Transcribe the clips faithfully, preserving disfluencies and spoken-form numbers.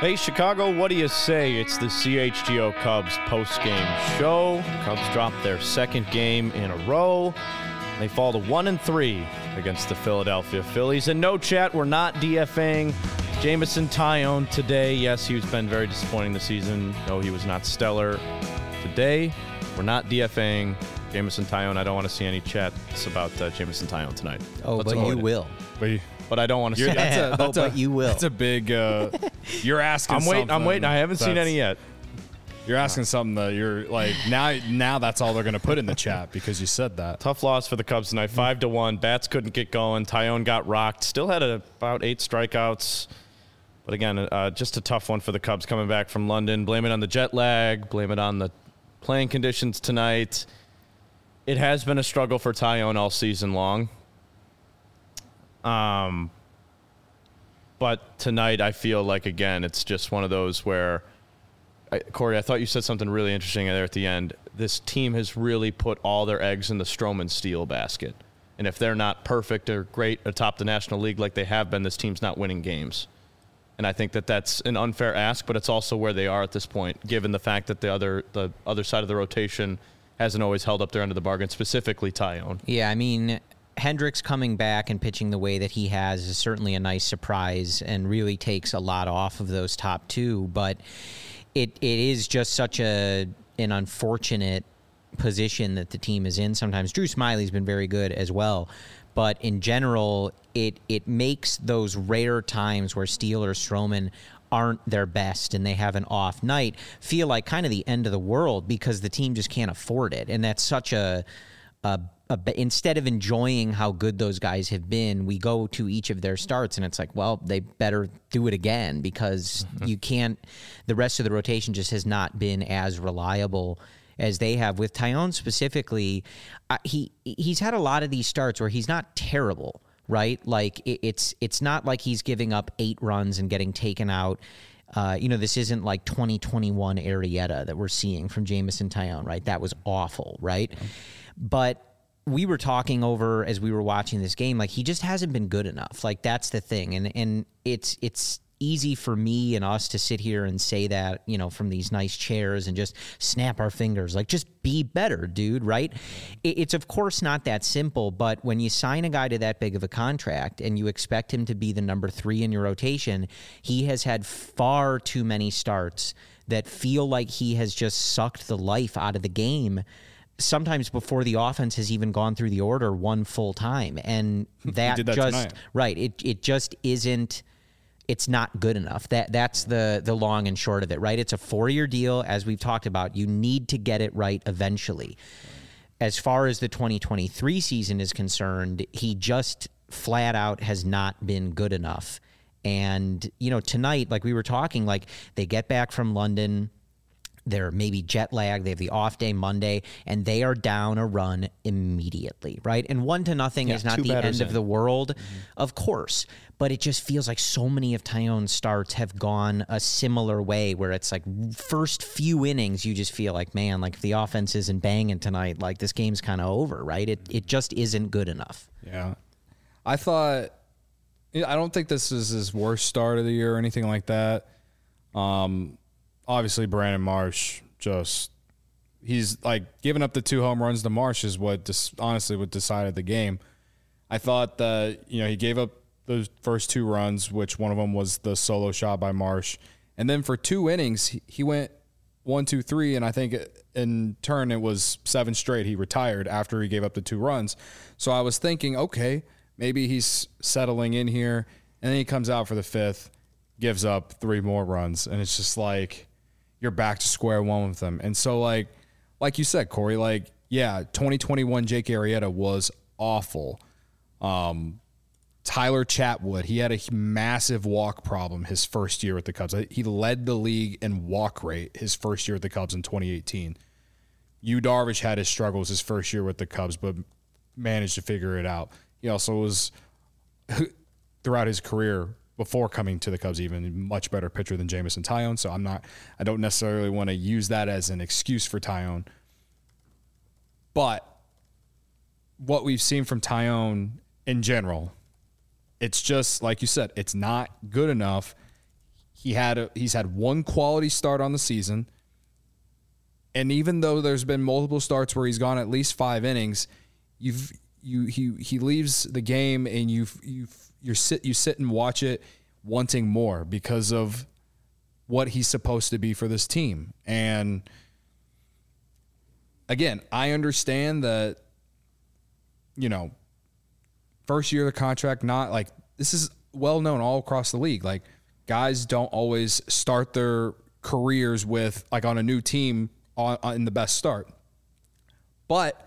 Hey, Chicago, what do you say? It's the C H G O Cubs post-game show. Cubs dropped their second game in a row. They fall to one and three against the Philadelphia Phillies. And no, chat, we're not DFAing Jameson Taillon today. Yes, he's been very disappointing this season. No, he was not stellar today. We're not DFAing Jameson Taillon. I don't want to see any chats about uh, Jameson Taillon tonight. Oh, Let's but you it. will. But, but I don't want to see that's a, that's oh, a, but you will. That's a big, uh, you're asking I'm waiting, I'm waiting. I haven't seen any yet. You're asking something that you're like, now Now that's all they're going to put in the chat because you said that. Tough loss for the Cubs tonight, five to one. Bats couldn't get going. Taillon got rocked. Still had a, about eight strikeouts. But again, uh, just a tough one for the Cubs coming back from London. Blame it on the jet lag. Blame it on the playing conditions tonight. It has been a struggle for Taillon all season long. Um, but tonight I feel like, again, it's just one of those where, I, Corey, I thought you said something really interesting there at the end. This team has really put all their eggs in the Stroman Steele basket. And if they're not perfect or great atop the National League like they have been, this team's not winning games. And I think that that's an unfair ask, but it's also where they are at this point, given the fact that the other the other side of the rotation hasn't always held up their end of the bargain, specifically Taillon. Yeah, I mean, Hendricks coming back and pitching the way that he has is certainly a nice surprise and really takes a lot off of those top two. But it it is just such a an unfortunate position that the team is in sometimes. Drew Smyly's been very good as well. But in general, it it makes those rare times where Steele or Stroman aren't their best and they have an off night feel like kind of the end of the world because the team just can't afford it. And that's such a, a, a instead of enjoying how good those guys have been, we go to each of their starts and it's like, well, they better do it again because mm-hmm. you can't, the rest of the rotation just has not been as reliable as they have. With Taillon specifically, uh, he he's had a lot of these starts where he's not terrible, right? Like it, it's it's not like he's giving up eight runs and getting taken out. Uh, you know, this isn't like twenty twenty-one Arrieta that we're seeing from Jameson Taillon, right? That was awful, right? Yeah. But we were talking over as we were watching this game, like he just hasn't been good enough. Like that's the thing, and and it's it's. easy for me and us to sit here and say that, you know, from these nice chairs and just snap our fingers, like just be better, dude, right? It's of course not that simple, but when you sign a guy to that big of a contract and you expect him to be the number three in your rotation, he has had far too many starts that feel like he has just sucked the life out of the game, sometimes before the offense has even gone through the order one full time. And that, did that just, tonight. right, it it just isn't, it's not good enough. That That's the the long and short of it, right? It's a four-year deal, as we've talked about. You need to get it right eventually. As far as the twenty twenty-three season is concerned, he just flat out has not been good enough. And, you know, tonight, like we were talking, like they get back from London, they're maybe jet lagged, they have the off day Monday, and they are down a run immediately, right? And one to nothing yeah, is not the end in. of the world, mm-hmm. of course, but it just feels like so many of Taillon's starts have gone a similar way where it's like first few innings, you just feel like, man, like if the offense isn't banging tonight, like this game's kind of over, right? It it just isn't good enough. Yeah. I thought, I don't think this is his worst start of the year or anything like that. Um, Obviously, Brandon Marsh just, he's like giving up the two home runs to Marsh is what dis, honestly what decided the game. I thought that, you know, he gave up those first two runs, which one of them was the solo shot by Marsh. And then for two innings, he, he went one, two, three, and I think in turn it was seven straight. He retired after he gave up the two runs. So I was thinking, okay, maybe he's settling in here. And then he comes out for the fifth, gives up three more runs. And it's just like, you're back to square one with them. And so, like like you said, Corey, like, yeah, twenty twenty-one Jake Arrieta was awful. Um, Tyler Chatwood, he had a massive walk problem his first year with the Cubs. He led the league in walk rate his first year with the Cubs in twenty eighteen. Yu Darvish had his struggles his first year with the Cubs, but managed to figure it out. He also was, throughout his career, before coming to the Cubs, even much better pitcher than Jameson Taillon. So I'm not, I don't necessarily want to use that as an excuse for Taillon. But what we've seen from Taillon in general, it's just, like you said, it's not good enough. he had a, he's had one quality start on the season. And even though there's been multiple starts where he's gone at least five innings, you've you he he leaves the game and you you you sit you sit and watch it wanting more because of what he's supposed to be for this team. And again, I understand that, you know, first year of the contract, not like this is well known all across the league. Like guys don't always start their careers with like on a new team on, on in the best start. But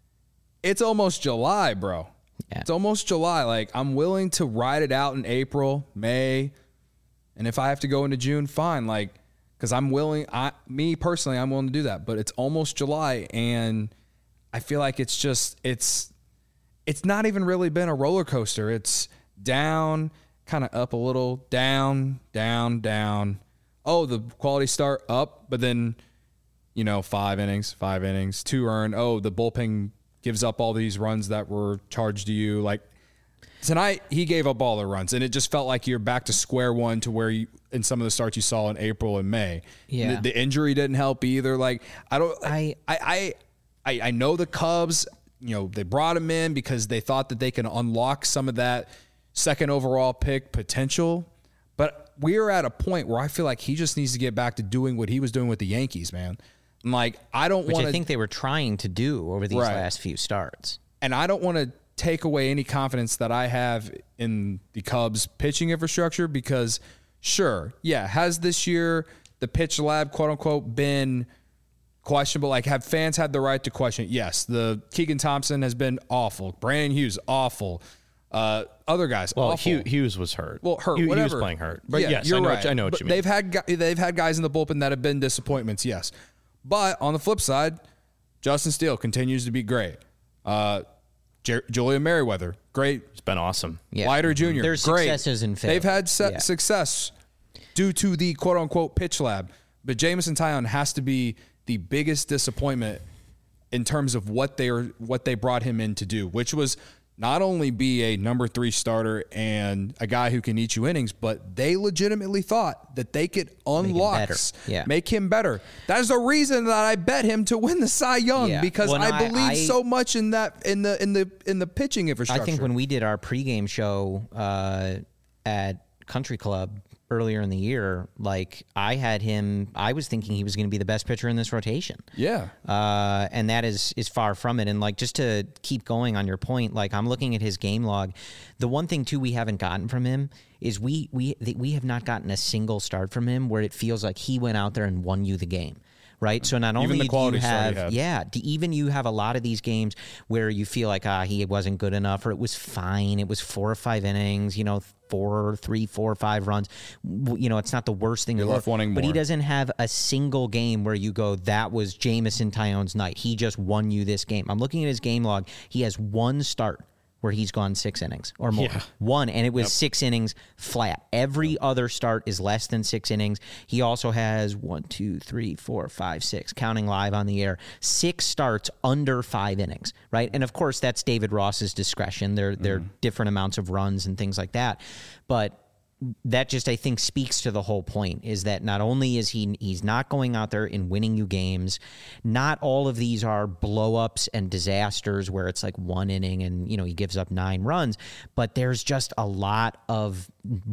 it's almost July, bro. Yeah. It's almost July. Like I'm willing to ride it out in April, May, and if I have to go into June, fine. Like, because I'm willing, I, me personally, I'm willing to do that. But it's almost July, and I feel like it's just, it's, it's not even really been a roller coaster. It's down, kind of up a little, down, down, down. Oh, the quality start up, but then, you know, five innings, five innings, two earned. Oh, the bullpen gives up all these runs that were charged to you. Like tonight, he gave up all the runs, and it just felt like you're back to square one to where you in some of the starts you saw in April and May. Yeah, the, the injury didn't help either. Like I don't, I, I, I, I, I know the Cubs. You know, they brought him in because they thought that they can unlock some of that second overall pick potential. But we're at a point where I feel like he just needs to get back to doing what he was doing with the Yankees, man. I'm like, I don't want to. Which I think they were trying to do over these Right. last few starts. And I don't want to take away any confidence that I have in the Cubs pitching infrastructure because, sure, yeah, has this year the pitch lab, quote unquote, been questionable? Like, have fans had the right to question it? Yes. The Keegan Thompson has been awful. Brandon Hughes, awful. Uh, other guys, Well, awful. Hugh, Hughes was hurt. Well, hurt, He, he whatever. was playing hurt. But Yeah, yes, you're I know, right. what, I know what But you mean. They've had gu- they've had guys in the bullpen that have been disappointments, yes. But on the flip side, Justin Steele continues to be great. Uh, Jer- Julian Merriweather, great. It's been awesome. Yeah. Leiter Junior, There's great. successes and They've had failures. se- Yeah. success due to the quote unquote pitch lab. But Jameson Taillon has to be the biggest disappointment in terms of what they are what they brought him in to do, which was not only be a number three starter and a guy who can eat you innings, but they legitimately thought that they could unlock, better. Yeah. make him better. That is the reason that I bet him to win the Cy Young Yeah. because Well, no, I I- believe I- so much in that in the in the in the pitching infrastructure. I think when we did our pregame show uh, at Country Club earlier in the year, like I had him, I was thinking he was going to be the best pitcher in this rotation. yeah. Uh, and that is is far from it. And like just to keep going on your point, like I'm looking at his game log. The one thing too we haven't gotten from him is we we we have not gotten a single start from him where it feels like he went out there and won you the game. Right. So not Even only the do quality you start he have, had. yeah, do even you have a lot of these games where you feel like, ah, he wasn't good enough or it was fine. It was four or five innings, you know, four, three, four, five runs. W- You know, it's not the worst thing You're in the left world. wanting But he more. doesn't have a single game where you go, that was Jameson Taillon's night. He just won you this game. I'm looking at his game log. He has one start where he's gone six innings or more. Yeah. One, and it was six innings flat. Every other start is less than six innings. He also has one, two, three, four, five, six, counting live on the air, six starts under five innings, right? And of course, that's David Ross's discretion. There, there are different amounts of runs and things like that. But that just, I think, speaks to the whole point is that not only is he he's not going out there and winning you games, not all of these are blow-ups and disasters where it's like one inning and, you know, he gives up nine runs, but there's just a lot of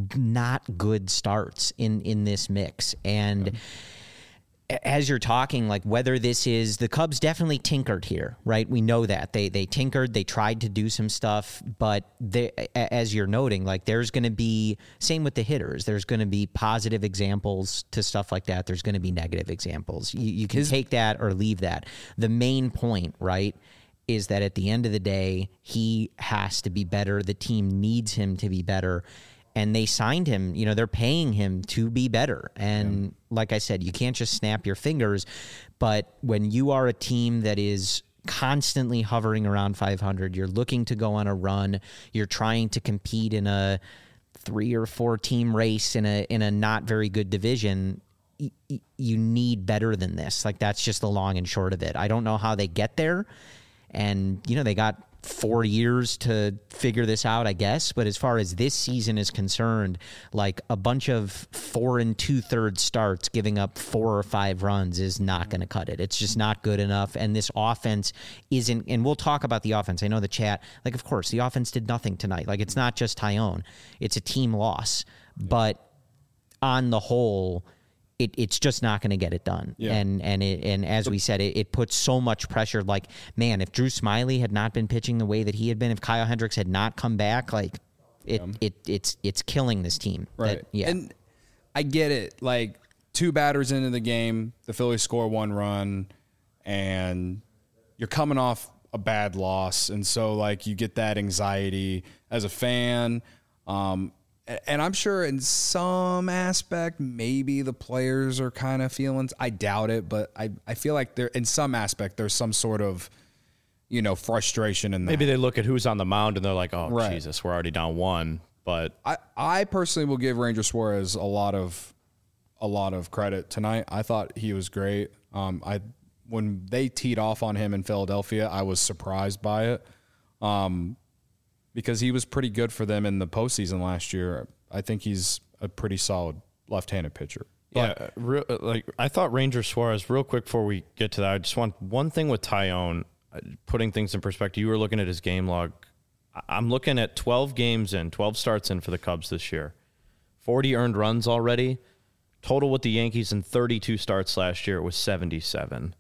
not good starts in, in this mix. And as you're talking, like whether this is the Cubs definitely tinkered here, right? We know that they they tinkered, they tried to do some stuff, but they, as you're noting, like there's going to be same with the hitters. There's going to be positive examples to stuff like that. There's going to be negative examples. You, you can His- take that or leave that. The main point, right, is that at the end of the day, he has to be better. The team needs him to be better. And they signed him, you know, they're paying him to be better. And yeah. like I said, you can't just snap your fingers. But when you are a team that is constantly hovering around five hundred, you're looking to go on a run, you're trying to compete in a three or four team race in a in a not very good division, y- y- you need better than this. Like that's just the long and short of it. I don't know how they get there. And, you know, they got four years to figure this out, I guess. But as far as this season is concerned, like a bunch of four and two thirds starts giving up four or five runs is not going to cut it. It's just not good enough. And this offense isn't, and we'll talk about the offense. I know the chat, like, of course, the offense did nothing tonight. Like, it's not just Tyone. It's a team loss. But on the whole, It, it's just not going to get it done. Yeah. And and it, and as we said, it, it puts so much pressure. Like, man, if Drew Smyly had not been pitching the way that he had been, if Kyle Hendricks had not come back, like it yeah. it it's it's killing this team. Right. That, yeah. And I get it. Like, two batters into the game, the Phillies score one run, and you're coming off a bad loss, and so like you get that anxiety as a fan. Um, And I'm sure in some aspect, maybe the players are kind of feeling, I doubt it, but I, I feel like there, in some aspect, there's some sort of, you know, frustration in that. Maybe they look at who's on the mound and they're like, oh, right. Jesus, we're already down one. But I, I personally will give Ranger Suarez a lot of, a lot of credit tonight. I thought he was great. Um, I, when they teed off on him in Philadelphia, I was surprised by it. Um, Because he was pretty good for them in the postseason last year. I think he's a pretty solid left-handed pitcher. But yeah, real, like I thought Ranger Suarez, real quick before we get to that, I just want one thing with Tyone, putting things in perspective. You were looking at his game log. I'm looking at twelve games in, twelve starts in for the Cubs this year. forty earned runs already. Total with the Yankees in thirty-two starts last year, it was seventy-seven.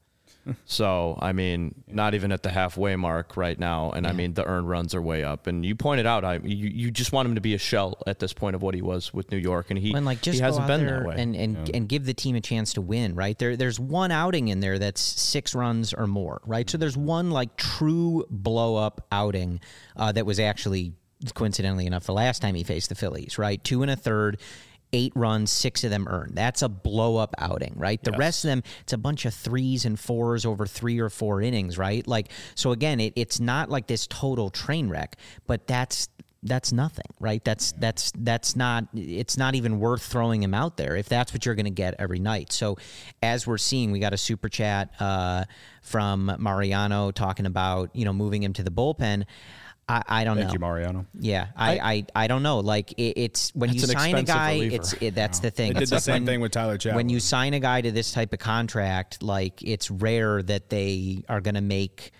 So, I mean, not even at the halfway mark right now. And, yeah. I mean, the earned runs are way up. And you pointed out, I you, you just want him to be a shell at this point of what he was with New York. And he, and like, just he hasn't been that way. And, and, yeah. and give the team a chance to win, right? There, There's one outing in there that's six runs or more, right? So there's one, like, true blow-up outing uh, that was actually, coincidentally enough, the last time he faced the Phillies, right? Two and a third. Eight runs, six of them earned. That's a blow-up outing, right? The yes. rest of them, it's a bunch of threes and fours over three or four innings, right? Like, so again, it, it's not like this total train wreck, but that's that's nothing, right? That's that's that's not. It's not even worth throwing him out there if that's what you're going to get every night. So, as we're seeing, we got a super chat uh, from Mariano talking about you know moving him to the bullpen. I, I don't Thank know. Thank you, Mariano. Yeah, I, I, I, I don't know. Like it, it's when you sign a guy, reliever. it's it, that's wow. the thing. They did it's the like same when, thing with Tyler Chapman. When you sign a guy to this type of contract, like it's rare that they are going to make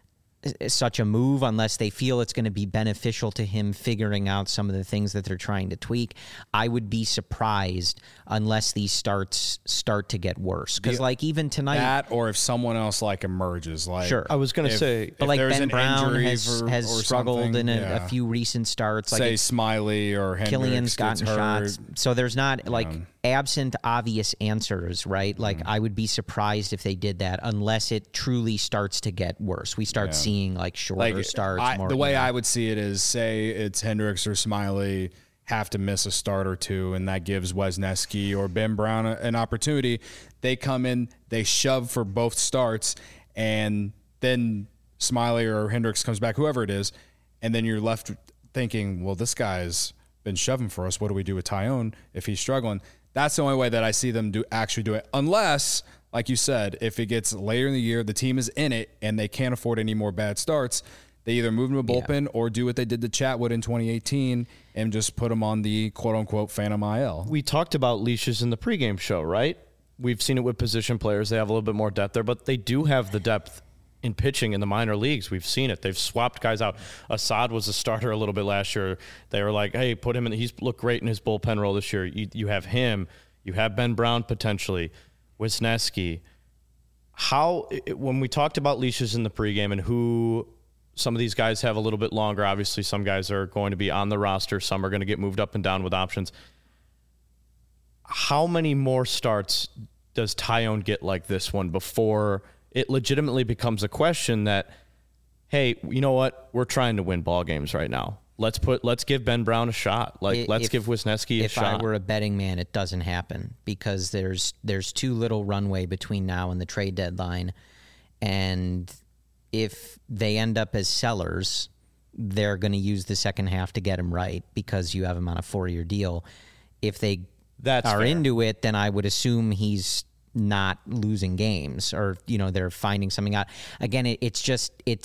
such a move unless they feel it's going to be beneficial to him figuring out some of the things that they're trying to tweak. I would be surprised unless these starts start to get worse. Because yeah, like even tonight, that or if someone else like emerges, like sure, I was going to say, but like Ben Brown has, for, has struggled in a, yeah. a few recent starts. Say like Smyly or Hendricks Killian's gotten hurt. shots, so there's not like. Yeah. Absent obvious answers, right? Like mm. I would be surprised if they did that unless it truly starts to get worse. We start yeah. seeing like shorter like, starts. I, more, the way you know. I would see it is, say it's Hendricks or Smyly have to miss a start or two, and that gives Wesneski or Ben Brown a, an opportunity. They come in, they shove for both starts, and then Smyly or Hendricks comes back, whoever it is, and then you're left thinking, well, this guy's been shoving for us. What do we do with Tyone if he's struggling? That's the only way that I see them do actually do it. Unless, like you said, if it gets later in the year, the team is in it, and they can't afford any more bad starts, they either move him to a bullpen yeah. or do what they did to Chatwood in twenty eighteen and just put him on the quote-unquote Phantom I L. We talked about leashes in the pregame show, right? We've seen it with position players. They have a little bit more depth there, but they do have the depth in pitching in the minor leagues. We've seen it. They've swapped guys out. Assad was a starter a little bit last year. They were like, hey, put him in. He's looked great in his bullpen role this year. You, you have him. You have Ben Brown potentially, Wisniewski. How, when we talked about leashes in the pregame and who some of these guys have a little bit longer, obviously some guys are going to be on the roster, some are going to get moved up and down with options. How many more starts does Tyone get like this one before it legitimately becomes a question that, hey, you know what? We're trying to win ball games right now. Let's put. Let's give Ben Brown a shot. Like, if, let's give Wisniewski a if shot. If I were a betting man, it doesn't happen because there's there's too little runway between now and the trade deadline, and if they end up as sellers, they're going to use the second half to get him right because you have him on a four-year deal. If they That's are fair. into it, then I would assume he's not losing games, or you know they're finding something out. Again, it, it's just it's.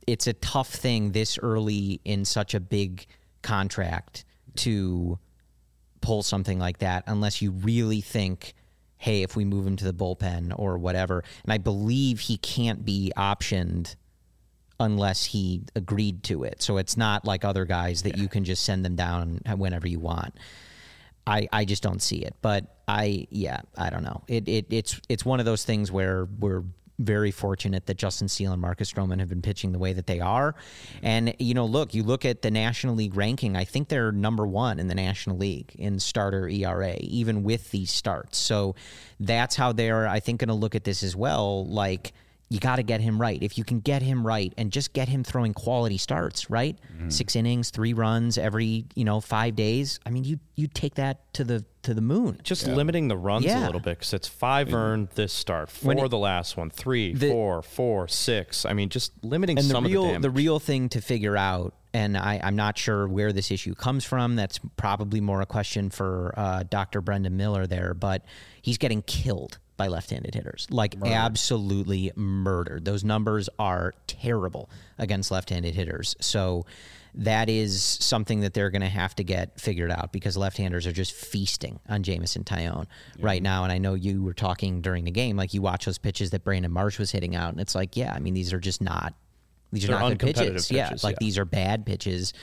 it's a tough thing this early in such a big contract to pull something like that unless you really think, hey, if we move him to the bullpen or whatever. And I believe he can't be optioned unless he agreed to it. So it's not like other guys that yeah. you can just send them down whenever you want. I, I just don't see it. But I, yeah, I don't know. It, it it's it's one of those things where we're very fortunate that Justin Steele and Marcus Stroman have been pitching the way that they are. And, you know, look, you look at the National League ranking, I think they're number one in the National League in starter E R A, even with these starts. So that's how they're, I think, going to look at this as well. Like, you got to get him right. If you can get him right and just get him throwing quality starts, right? Mm-hmm. Six innings, three runs every, you know, five days. I mean, you you take that to the to the moon. Just yeah. limiting the runs yeah. a little bit because it's five earned this start, four it, the last one, three, the, four, four, six. I mean, just limiting and some the real, of the damage. The real thing to figure out, and I, I'm not sure where this issue comes from. That's probably more a question for uh, Doctor Brendan Miller there, but he's getting killed by left-handed hitters, like murdered. Absolutely murdered. Those numbers are terrible against left-handed hitters. So that is something that they're going to have to get figured out because left-handers are just feasting on Jameson Taillon yeah. right now. And I know you were talking during the game, like you watch those pitches that Brandon Marsh was hitting out, and it's like, yeah, I mean, these are just not, these they're are not good pitches. pitches. Yeah, like yeah. these are bad pitches.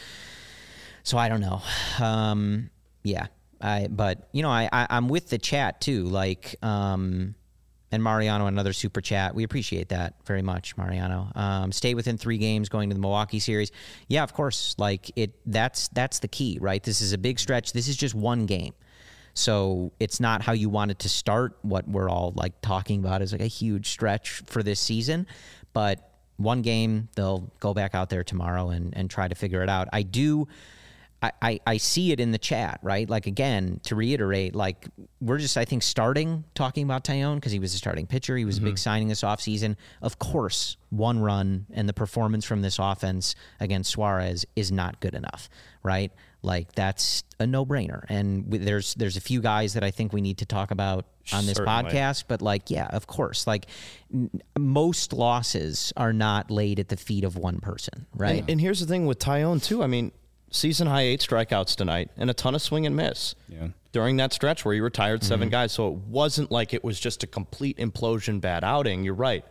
So I don't know. Um, yeah. I, but you know, I, I I'm with the chat too. Like, um, and Mariano, another super chat. We appreciate that very much, Mariano. Um, stay within three games going to the Milwaukee series. Yeah, of course. Like it. That's that's the key, right? This is a big stretch. This is just one game, so it's not how you want it to start. What we're all like talking about is like a huge stretch for this season, but one game. They'll go back out there tomorrow and and try to figure it out. I do. I, I, I see it in the chat, right? Like, again, to reiterate, like, we're just, I think, starting talking about Taillon because he was a starting pitcher. He was mm-hmm. a big signing this offseason. Of course, one run and the performance from this offense against Suarez is not good enough, right? Like, that's a no-brainer. And w- there's there's a few guys that I think we need to talk about on this Certainly. podcast. But, like, yeah, of course. Like, n- most losses are not laid at the feet of one person, right? And, and here's the thing with Taillon, too. I mean, season high eight strikeouts tonight and a ton of swing and miss yeah. during that stretch where he retired seven mm-hmm. guys. So it wasn't like it was just a complete implosion bad outing. You're right.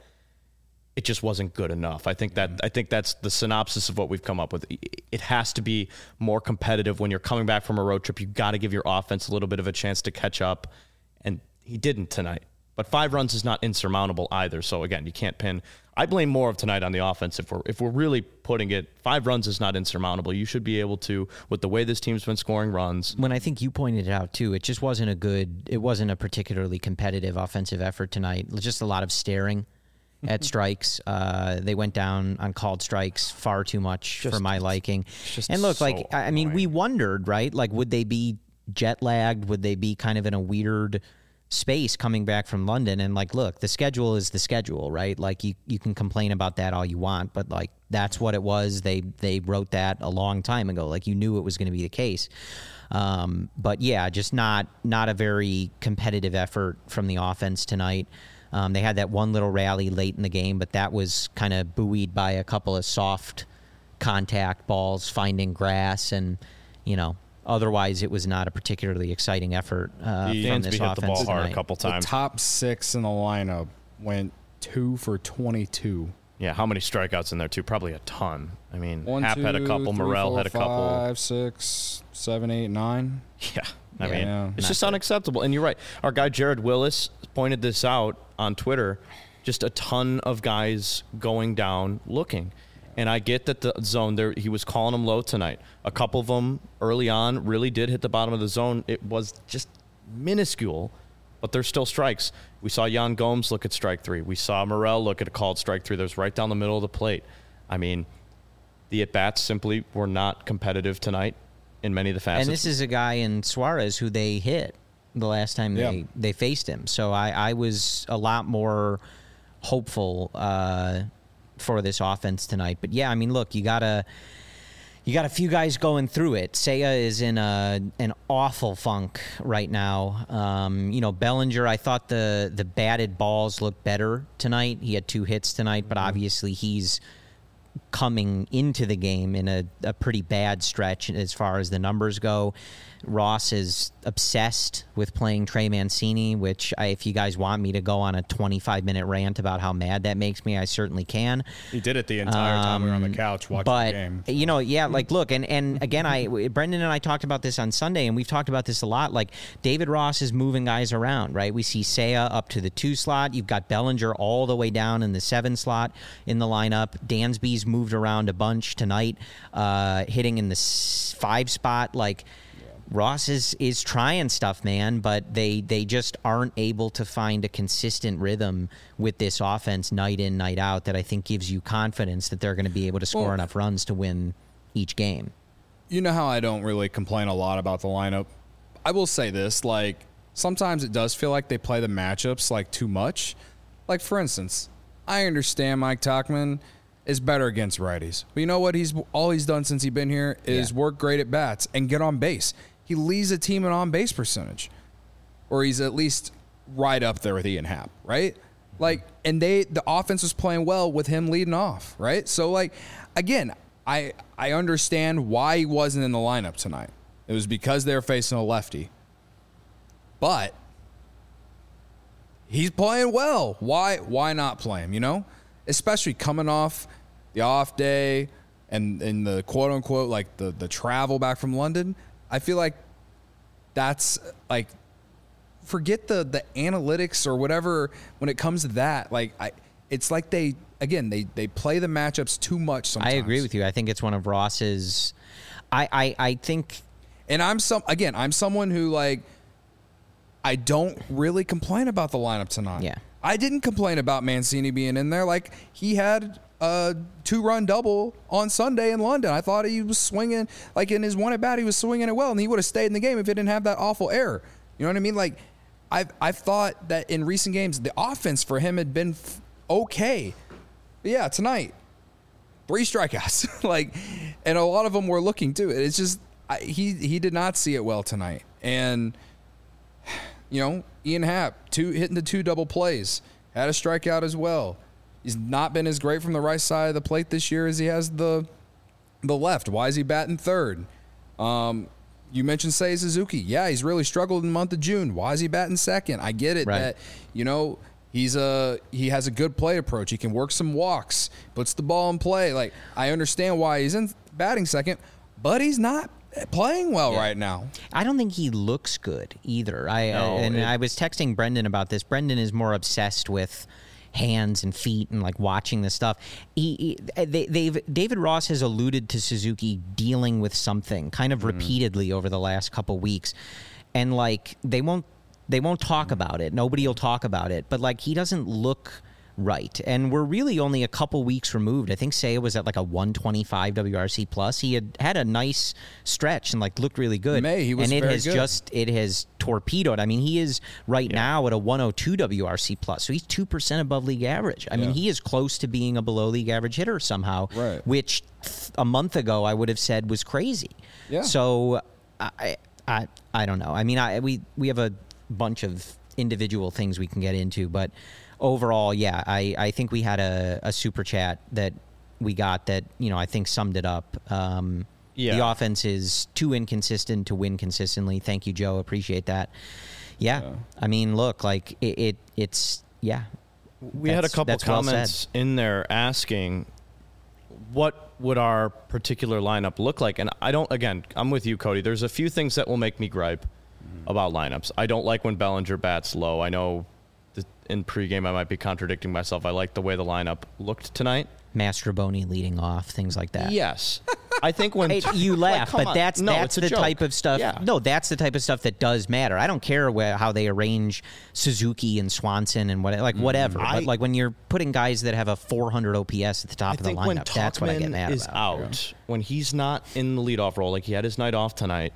It just wasn't good enough. I think that mm-hmm. I think that's the synopsis of what we've come up with. It has to be more competitive when you're coming back from a road trip. You got to give your offense a little bit of a chance to catch up, and he didn't tonight. But five runs is not insurmountable either. So again, you can't pin. I blame more of tonight on the offense. If we're if we're really putting it, five runs is not insurmountable. You should be able to, with the way this team's been scoring runs. When I think you pointed it out too, it just wasn't a good. It wasn't a particularly competitive offensive effort tonight. It was just a lot of staring at strikes. Uh, they went down on called strikes far too much just, for my liking. And look, so like I mean, annoying. we wondered, right? Like, would they be jet lagged? Would they be kind of in a weird space coming back from London? And like, look, the schedule is the schedule, right? Like you, you can complain about that all you want, but like that's what it was. They they wrote that a long time ago. Like you knew it was going to be the case. Um, but yeah, just not not a very competitive effort from the offense tonight. Um, they had that one little rally late in the game, but that was kind of buoyed by a couple of soft contact balls finding grass, and you know. Otherwise, it was not a particularly exciting effort uh, from this hit offense the ball hard tonight. a couple times. The top six in the lineup went two for twenty-two. Yeah, how many strikeouts in there too? Probably a ton. I mean, One, Happ two, had a couple, three, Morel four, had a couple. Five, six, seven, eight, nine. Yeah, I Yeah, mean, yeah. it's Not just good. unacceptable. And you're right. Our guy Jared Willis pointed this out on Twitter. Just a ton of guys going down looking. And I get that the zone there, he was calling them low tonight. A couple of them early on really did hit the bottom of the zone. It was just minuscule, but they're still strikes. We saw Yan Gomes look at strike three. We saw Morel look at a called strike three that was right down the middle of the plate. I mean, the at-bats simply were not competitive tonight in many of the facets. And this is a guy in Suarez who they hit the last time Yeah. they, they faced him. So I, I was a lot more hopeful uh, for this offense tonight. But yeah, I mean, look, you gotta you got a few guys going through it. Seiya is in a an awful funk right now. Um, you know, Bellinger, I thought the the batted balls looked better tonight. He had two hits tonight, but obviously he's coming into the game in a, a pretty bad stretch as far as the numbers go. Ross is obsessed with playing Trey Mancini, which I, if you guys want me to go on a twenty-five minute rant about how mad that makes me, I certainly can. He did it the entire um, time we were on the couch watching but, the game. You know, yeah, like, look, and, and again, I Brendan and I talked about this on Sunday, and we've talked about this a lot. Like, David Ross is moving guys around, right? We see Seiya up to the two slot. You've got Bellinger all the way down in the seven slot in the lineup. Dansby's moved around a bunch tonight, uh, hitting in the five spot. Like, Ross is, is trying stuff, man, but they, they just aren't able to find a consistent rhythm with this offense night in, night out that I think gives you confidence that they're going to be able to score well, enough runs to win each game. You know how I don't really complain a lot about the lineup? I will say this, like, sometimes it does feel like they play the matchups, like, too much. Like, for instance, I understand Mike Tauchman is better against righties. But you know what? He's all he's done since he's been here is yeah. work great at bats and get on base. He leads a team in on-base percentage, or he's at least right up there with Ian Happ, right? Like, and they the offense was playing well with him leading off, right? So, like, again, I I understand why he wasn't in the lineup tonight. It was because they were facing a lefty, but he's playing well. Why why not play him? You know, especially coming off the off day and and the quote unquote like the the travel back from London. I feel like that's like, forget the, the analytics or whatever when it comes to that. Like, I, it's like they, again, they, they play the matchups too much sometimes. I agree with you. I think it's one of Ross's, I, I, I think. And I'm some, again, I'm someone who, like, I don't really complain about the lineup tonight. Yeah. I didn't complain about Mancini being in there. Like, he had a two-run double on Sunday in London. I thought he was swinging, like in his one at bat, he was swinging it well, and he would have stayed in the game if he didn't have that awful error. You know what I mean? Like, I've I've thought that in recent games, the offense for him had been f- okay. But yeah, tonight, three strikeouts, like, and a lot of them were looking too. It's just I, he he did not see it well tonight, and you know, Ian Happ two hitting the two double plays, had a strikeout as well. He's not been as great from the right side of the plate this year as he has the the left. Why is he batting third? Um, you mentioned Seiya Suzuki. Yeah, he's really struggled in the month of June. Why is he batting second? I get it right. that, you know, he's a he has a good play approach. He can work some walks, puts the ball in play. Like, I understand why he's in batting second, but he's not playing well yeah. right now. I don't think he looks good either. I no, uh, and it, I was texting Brendan about this. Brendan is more obsessed with hands and feet and like watching this stuff. He, he they, they've David Ross has alluded to Suzuki dealing with something kind of mm. repeatedly over the last couple weeks, and like they won't they won't talk about it. Nobody will talk about it, but like he doesn't look right. And we're really only a couple weeks removed. I think Seiya was at like a one twenty-five W R C plus. He had had a nice stretch and like looked really good. May he was and it very has good. just it has torpedoed. I mean, he is right yeah. now at a one oh two W R C plus, so he's two percent above league average. I yeah. mean, he is close to being a below league average hitter somehow, right. which a month ago I would have said was crazy. Yeah. So I I I don't know. I mean, I we we have a bunch of individual things we can get into, but overall, yeah, I, I think we had a, a super chat that we got that, you know, I think summed it up. Um, yeah. The offense is too inconsistent to win consistently. Thank you, Joe. Appreciate that. Yeah. yeah. I mean, look, like it, it it's, yeah. We had a couple comments well in there asking what would our particular lineup look like? And I don't, again, I'm with you, Cody. There's a few things that will make me gripe mm-hmm. about lineups. I don't like when Bellinger bats low. I know in pregame I might be contradicting myself. I like the way the lineup looked tonight. Mastroboni leading off, things like that. Yes. I think when hey, you laugh, like, but that's no, that's the joke. type of stuff. Yeah. No, that's the type of stuff that does matter. I don't care where, how they arrange Suzuki and Swanson and what, like whatever. I, but like when you're putting guys that have a four hundred O P S at the top I of the think lineup, when that's what I get mad is about. out, when he's not in the leadoff role, like he had his night off tonight,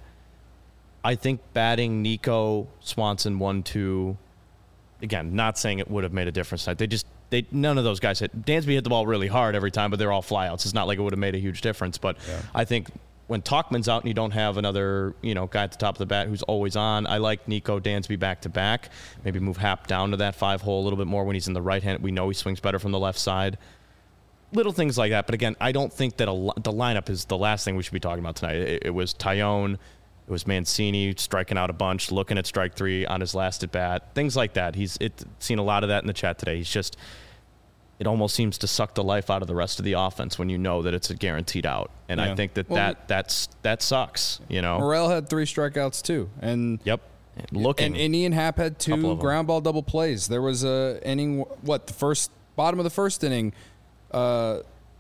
I think batting Nico, Swanson one two. Again, not saying it would have made a difference tonight. They just they none of those guys hit. Dansby hit the ball really hard every time, but they're all flyouts. It's not like it would have made a huge difference. But yeah. I think when Tauchman's out and you don't have another, you know, guy at the top of the bat who's always on, I like Nico Dansby back to back. Maybe move Happ down to that five hole a little bit more when he's in the right hand. We know he swings better from the left side. little things like that. But again, I don't think that a, the lineup is the last thing we should be talking about tonight. It, it was Taillon, it was Mancini striking out a bunch, looking at strike three on his last at bat, things like that. He's it, seen a lot of that in the chat today. He's just, it almost seems to suck the life out of the rest of the offense when you know that it's a guaranteed out. And yeah. I think that, well, that that's that sucks. You know, Morel had three strikeouts too, and yep, looking. And, and Ian Happ had two ground ball double plays. There was a inning, what the first bottom of the first inning, uh,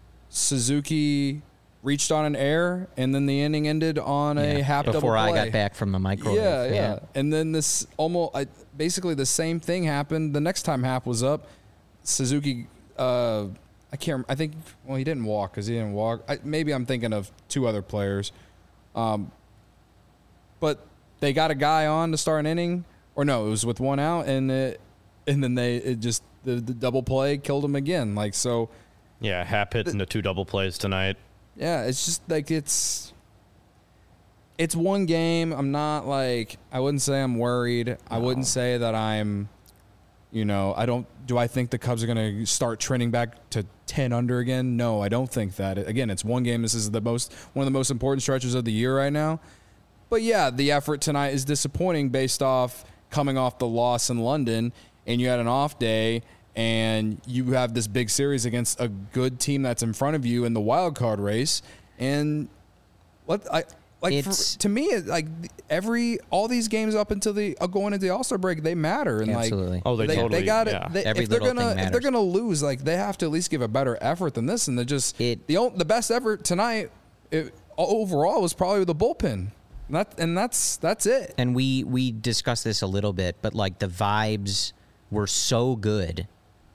Suzuki reached on an error, and then the inning ended on yeah. a Happ double play. Before I got back from the microwave. Yeah, yeah, yeah. And then this almost I, basically the same thing happened the next time Happ was up. Suzuki. Uh, I can't. I think. Well, he didn't walk because he didn't walk. I, maybe I'm thinking of two other players, um, but they got a guy on to start an inning, or no, it was with one out, and it, and then they it just the, the double play killed him again. Like so. Yeah, Happ hitting the two double plays tonight. Yeah, it's just like it's. It's one game. I'm not like I wouldn't say I'm worried. No. I wouldn't say that I'm. You know, I don't. Do I think the Cubs are going to start trending back to ten under again? No, I don't think that. Again, it's one game. This is the most one of the most important stretches of the year right now. But yeah, the effort tonight is disappointing based off coming off the loss in London, and you had an off day, and you have this big series against a good team that's in front of you in the wild card race, and what I. Like for, to me, like every all these games up until the uh, going into the All-Star break, they matter. And absolutely. like, oh, they, they totally. They got yeah. it. If they're gonna if they're gonna lose, like they have to at least give a better effort than this. And they just it, the the best effort tonight it, overall was probably the bullpen. And that and that's that's it. And we we discussed this a little bit, but like the vibes were so good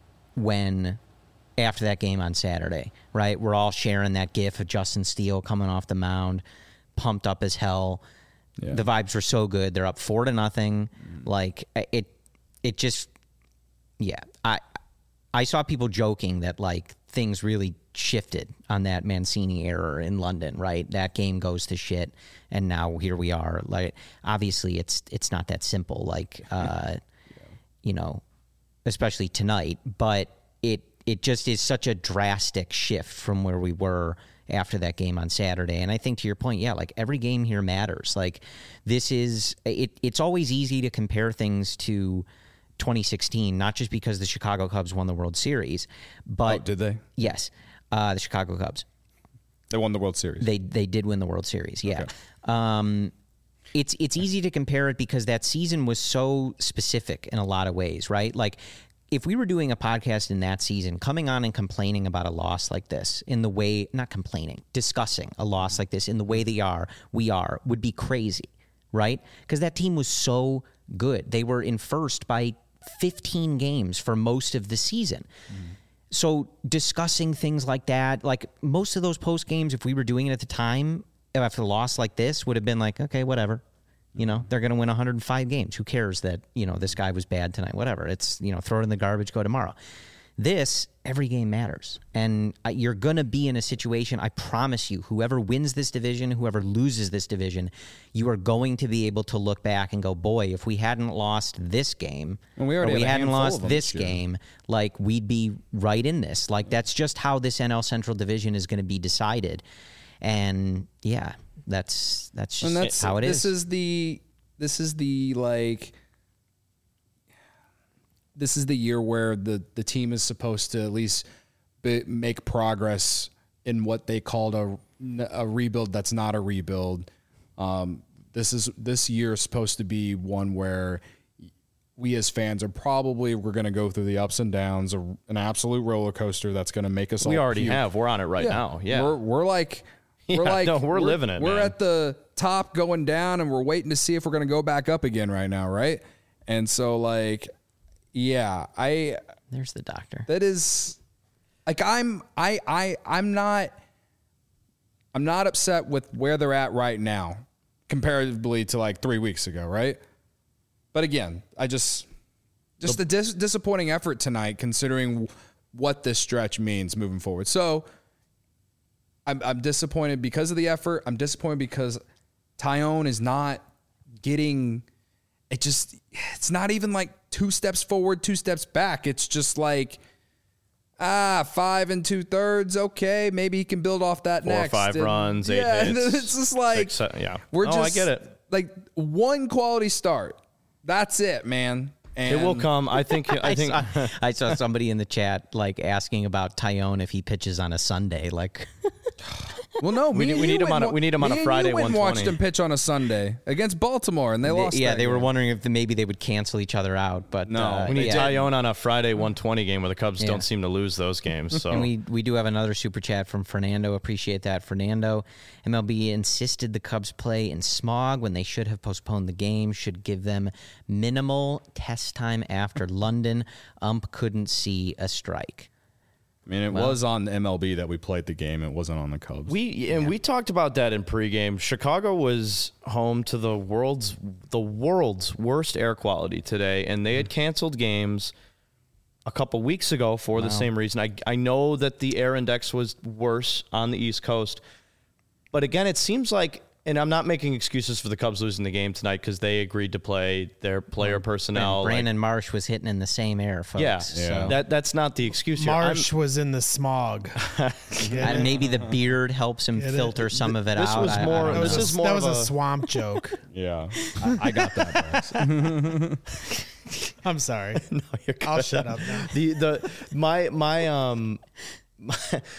when. After that game on Saturday, right? We're all sharing that gif of Justin Steele coming off the mound, pumped up as hell. Yeah. The vibes were so good. They're up four to nothing. Mm. Like it, it just, yeah. I, I saw people joking that like things really shifted on that Mancini error in London, right? That game goes to shit, and now here we are. Like obviously, it's it's not that simple. Like, uh, yeah. you know, especially tonight, but it. It just is such a drastic shift from where we were after that game on Saturday. And I think to your point, yeah, like every game here matters. Like this is, it, it's always easy to compare things to twenty sixteen, not just because the Chicago Cubs won the World Series, but. Oh, did they? Yes. Uh, the Chicago Cubs. They won the World Series. They they did win the World Series, yeah. Okay. Um, it's it's easy to compare it because that season was so specific in a lot of ways, right? Like, if we were doing a podcast in that season, coming on and complaining about a loss like this in the way, not complaining, discussing a loss like this in the way they are, we are, would be crazy, right? Because that team was so good. They were in first by fifteen games for most of the season. Mm. So discussing things like that, like most of those post games, if we were doing it at the time, after a loss like this, would have been like, okay, whatever. You know, they're going to win one hundred five games. Who cares that, you know, this guy was bad tonight? Whatever. It's, you know, throw it in the garbage, go tomorrow. This, every game matters. And you're going to be in a situation, I promise you, whoever wins this division, whoever loses this division, you are going to be able to look back and go, boy, if we hadn't lost this game, and we, or we hadn't lost this game, like we'd be right in this. Like that's just how this N L Central division is going to be decided. And yeah, that's that's just that's, how it this is. This is the this is the like this is the year where the, the team is supposed to at least be, make progress in what they called a a rebuild that's not a rebuild. Um, this is this year is supposed to be one where we as fans are probably we're going to go through the ups and downs, a, an absolute roller coaster that's going to make us. We all already puke. have. We're on it right yeah. now. Yeah, we're we're like. Yeah, we're like no, we're, we're living it. We're man. at the top going down, and we're waiting to see if we're going to go back up again right now, right? And so, like, yeah, I. There's the doctor. That is, like, I'm, I, I, I'm not, I'm not upset with where they're at right now, comparatively to like three weeks ago, right? But again, I just, just the dis- disappointing effort tonight, considering what this stretch means moving forward. So. I'm, I'm disappointed because of the effort. I'm disappointed because Taillon is not getting it. Just it's not even like two steps forward, two steps back. It's just like ah, five and two thirds. Okay, maybe he can build off that Four next. or five and, runs, eight yeah, hits. It's just like, six, seven, yeah. we're oh, just, I get it. Like one quality start. That's it, man. And It will come. I think. I I, think. saw, I saw somebody in the chat like asking about Tyone if he pitches on a Sunday. Like, Well, no, We me need- and we you need him went on a- and we need him wa- on a me and Friday you went and one watched twenty. him pitch on a Sunday against Baltimore, and they, they- lost. yeah, that they were game. wondering if the, maybe they would cancel each other out. But No, uh, we need yeah. Tyone on a Friday one twenty game where the Cubs Yeah. don't seem to lose those games. So And we, we do have another super chat from Fernando. Appreciate that, Fernando. M L B insisted the Cubs play in smog when they should have postponed the game. Should give them minimal test time after London. Ump couldn't see a strike. I mean, it Well- was on the M L B that we played the game. It wasn't on the Cubs. we and we talked about that in pregame. Chicago was home to the world's the world's worst air quality today, and they had canceled games a couple weeks ago for the same reason. I I know that the air index was worse on the East Coast, but again, it seems like, and I'm not making excuses for the Cubs losing the game tonight because they agreed to play their player personnel. And like- Brandon Marsh was hitting in the same air, folks. yeah, So. that that's not the excuse here. I'm- Marsh was in the smog. And maybe the beard helps him Yeah, filter some of it this out. was I- I more- don't That was, know. This a, is more that of was a a- swamp joke. yeah, I, I got that. Bryce. I'm sorry. No, you're I'll good. shut up now. The the my my um my,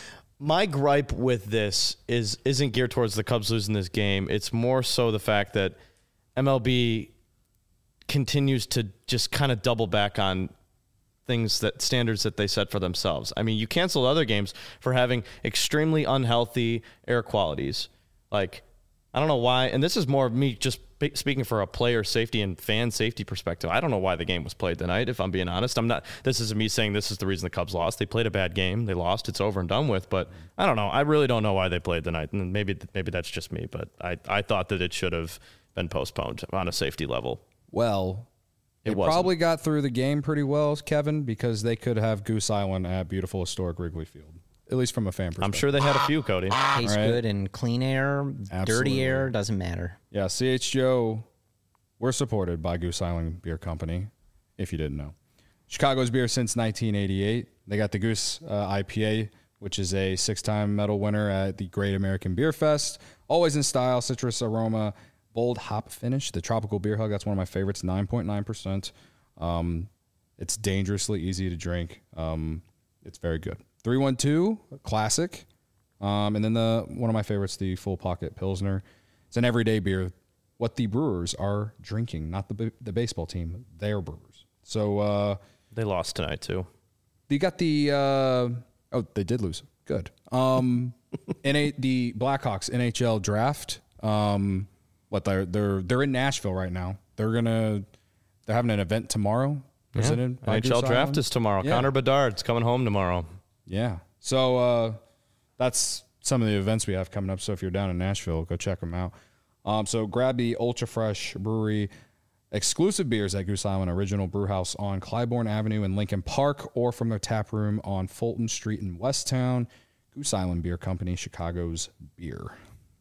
my gripe with this is isn't geared towards the Cubs losing this game. It's more so the fact that M L B continues to just kind of double back on things that standards that they set for themselves. I mean, you canceled other games for having extremely unhealthy air qualities. Like, I don't know why, and this is more of me just spe- speaking for a player safety and fan safety perspective. I don't know why the game was played tonight, if I'm being honest. I'm not, this is me saying this is the reason the Cubs lost. They played a bad game. They lost. It's over and done with, but I don't know. I really don't know why they played tonight, and maybe, maybe that's just me, but I, I thought that it should have been postponed on a safety level. Well, It it wasn't. probably got through the game pretty well, Kevin, because they could have Goose Island at beautiful historic Wrigley Field, at least from a fan perspective. I'm sure they had a few, Cody. Tastes All right. good in clean air, Absolutely. dirty air, doesn't matter. Yeah, C H G O, we're supported by Goose Island Beer Company, if you didn't know. Chicago's beer since nineteen eighty-eight. They got the Goose uh, I P A, which is a six-time medal winner at the Great American Beer Fest. Always in style, citrus aroma, bold hop finish. The Tropical Beer Hug, that's one of my favorites, nine point nine percent. Um, it's dangerously easy to drink. Um, it's very good. three one two, classic. Um, and then the one of my favorites, the Full Pocket Pilsner. It's an everyday beer. What the brewers are drinking, not the the baseball team, their brewers. So uh, They lost tonight, too. you got the uh, oh, they did lose. Good. Um, N A the Blackhawks N H L draft. Um, what they're they're they're in Nashville right now. They're gonna they're having an event tomorrow. Presented by N H L Goose draft Island. is tomorrow. Yeah. Connor Bedard's coming home tomorrow. Yeah. So uh, that's some of the events we have coming up. So if you're down in Nashville, go check them out. Um, so grab the Ultra Fresh Brewery exclusive beers at Goose Island Original Brewhouse on Clybourne Avenue in Lincoln Park, or from their tap room on Fulton Street in Westtown. Goose Island Beer Company, Chicago's beer.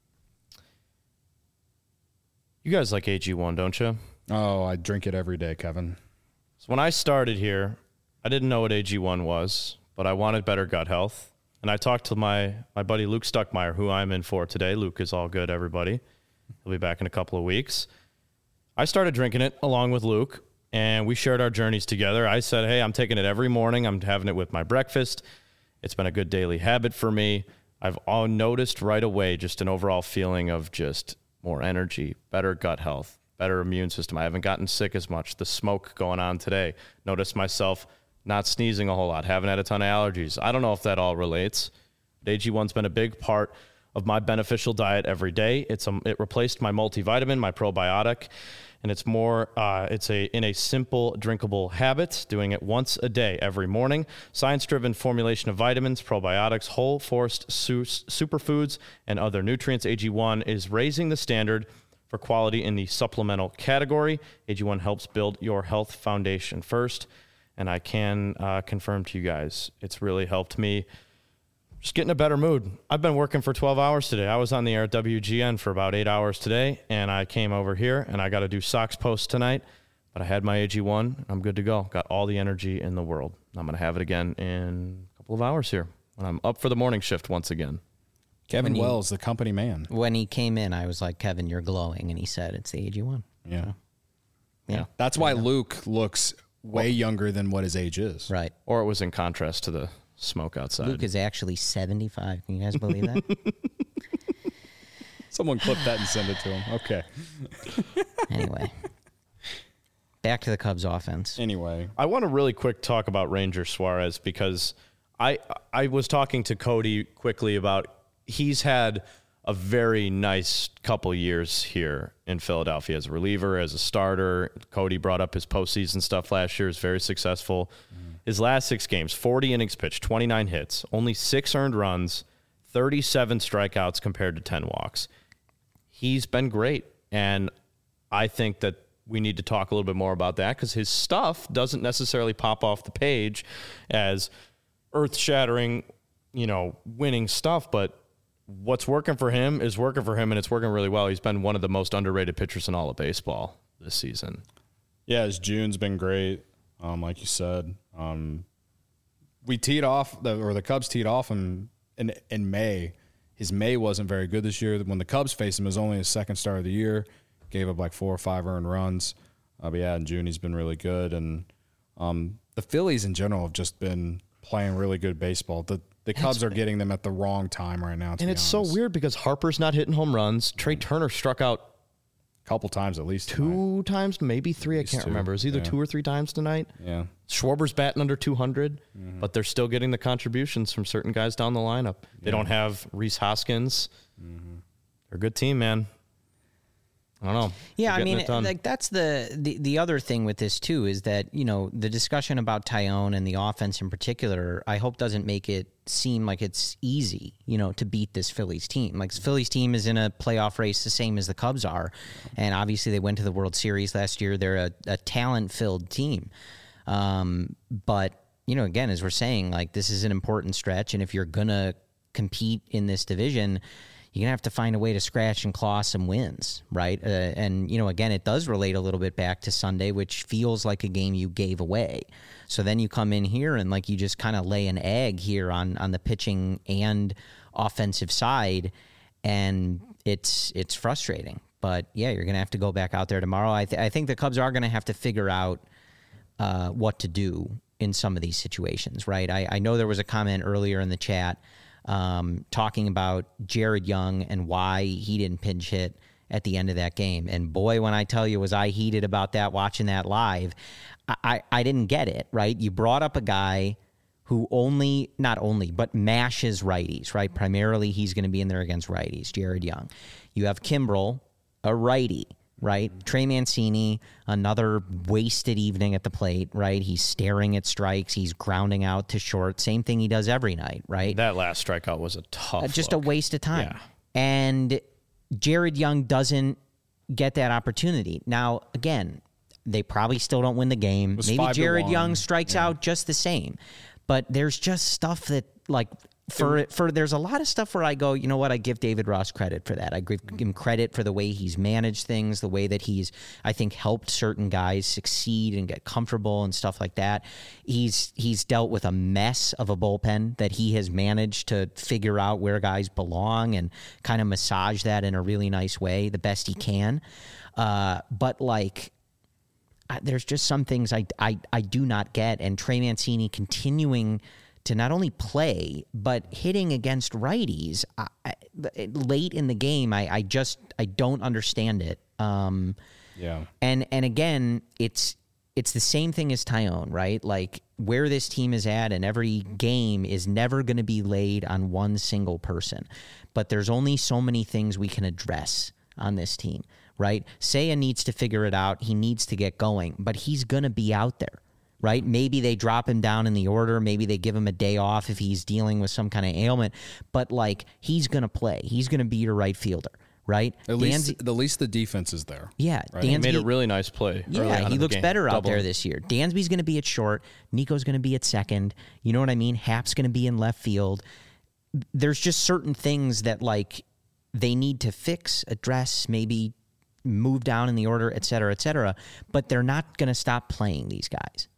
You guys like A G one, don't you? Oh, I drink it every day, Kevin. So when I started here, I didn't know what A G one was, but I wanted better gut health. And I talked to my, my buddy Luke Stuckmeyer, who I'm in for today. Luke is all good, everybody. He'll be back in a couple of weeks. I started drinking it along with Luke, and we shared our journeys together. I said, hey, I'm taking it every morning. I'm having it with my breakfast. It's been a good daily habit for me. I've all noticed right away just an overall feeling of just more energy, better gut health, better immune system. I haven't gotten sick as much. The smoke going on today. Noticed myself not sneezing a whole lot, haven't had a ton of allergies. I don't know if that all relates. But A G one's been a big part of my beneficial diet every day. It's a, it replaced my multivitamin, my probiotic, and it's more, uh, it's a in a simple, drinkable habit, doing it once a day, every morning. Science-driven formulation of vitamins, probiotics, whole forest su- superfoods, and other nutrients. A G one is raising the standard for quality in the supplemental category. A G one helps build your health foundation first, and I can uh, confirm to you guys, it's really helped me just get in a better mood. I've been working for twelve hours today. I was on the air at W G N for about eight hours today, and I came over here, and I got to do Sox Post tonight, but I had my A G one. I'm good to go. Got all the energy in the world. I'm going to have it again in a couple couple of hours here when I'm up for the morning shift once again. Kevin When you- Wells, the company man. When he came in, I was like, Kevin, you're glowing. And he said, it's the age you want. Yeah. Yeah. That's why Luke looks way younger than what his age is. Right. Or it was in contrast to the smoke outside. Luke is actually seventy-five. Can you guys believe that? Someone clip that and send it to him. Okay. Anyway. Back to the Cubs offense. Anyway. I want to really quick talk about Ranger Suarez because I I was talking to Cody quickly about he's had a very nice couple years here in Philadelphia as a reliever, as a starter. Cody brought up his postseason stuff last year. Is very successful. Mm. His last six games, forty innings pitched, twenty-nine hits, only six earned runs, thirty-seven strikeouts compared to ten walks. He's been great, and I think that we need to talk a little bit more about that because his stuff doesn't necessarily pop off the page as earth-shattering, you know, winning stuff, but what's working for him is working for him, and it's working really well. He's been one of the most underrated pitchers in all of baseball this season. Yeah, his June's been great, um, like you said. Um, we teed off, the, or the Cubs teed off him in, in May. His May wasn't very good this year. When the Cubs faced him, it was only his second start of the year. Gave up like four or five earned runs. Uh, but yeah, in June he's been really good. And um, the Phillies in general have just been playing really good baseball. The the Cubs are getting them at the wrong time right now. To And be it's so honest. weird because Harper's not hitting home runs. Trey Turner struck out A couple times at least. two tonight. times, maybe three. I can't two, remember. It was either yeah. two or three times tonight. Yeah. Schwarber's batting under two hundred, Mm-hmm. but they're still getting the contributions from certain guys down the lineup. They don't have Reese Hoskins. Mm-hmm. They're a good team, man. I don't know. Yeah, They're I getting mean, it done. like that's the, the the other thing with this too is that, you know, the discussion about Tyone and the offense in particular, I hope doesn't make it seem like it's easy, you know, to beat this Phillies team. Like, this Phillies team is in a playoff race the same as the Cubs are, and obviously they went to the World Series last year. They're a, a talent-filled team, um, but you know, again, as we're saying, like, this is an important stretch, and if you're gonna compete in this division, you're going to have to find a way to scratch and claw some wins, right? Uh, and, you know, again, it does relate a little bit back to Sunday, which feels like a game you gave away. So then you come in here and, like, you just kind of lay an egg here on on the pitching and offensive side, and it's it's frustrating. But, yeah, you're going to have to go back out there tomorrow. I, th- I think the Cubs are going to have to figure out uh, what to do in some of these situations, right? I, I know there was a comment earlier in the chat Um, talking about Jared Young and why he didn't pinch hit at the end of that game. And boy, when I tell you, was I heated about that watching that live, I, I, I didn't get it, right? You brought up a guy who only, not only, but mashes righties, right? Primarily, he's going to be in there against righties, Jared Young. You have Kimbrel, a righty, right? Trey Mancini, another wasted evening at the plate, right? He's staring at strikes. He's grounding out to short. Same thing he does every night, right? that last strikeout was a tough Uh, just look. a waste of time. Yeah. And Jared Young doesn't get that opportunity. Now, again, they probably still don't win the game. was Maybe five to Jared one. Young strikes out just the same. But there's just stuff that, like, for for there's a lot of stuff where I go, you know what, I give David Ross credit for that. I give him credit for the way he's managed things, the way that he's, I think, helped certain guys succeed and get comfortable and stuff like that. He's he's dealt with a mess of a bullpen that he has managed to figure out where guys belong and kind of massage that in a really nice way, the best he can. Uh, but like, I, there's just some things I, I I do not get, and Trey Mancini continuing to not only play, but hitting against righties I, I, late in the game. I, I just, I don't understand it. Um, Yeah. and, and again, it's, it's the same thing as Tyone, right? Like, where this team is at in every game is never going to be laid on one single person, but there's only so many things we can address on this team, right? Seiya needs to figure it out. He needs to get going, but he's going to be out there. Right? Maybe they drop him down in the order. Maybe they give him a day off if he's dealing with some kind of ailment. But, like, he's going to play. He's going to be your right fielder, right? At least, Dansby- at least the defense is there. yeah, right? He Dansby, made a really nice play. early on yeah, in he the looks game. better out Double. there this year. Dansby's going to be at short. Nico's going to be at second. You know what I mean? Hap's going to be in left field. There's just certain things that, like, they need to fix, address, maybe move down in the order, et cetera, et cetera. But they're not going to stop playing these guys.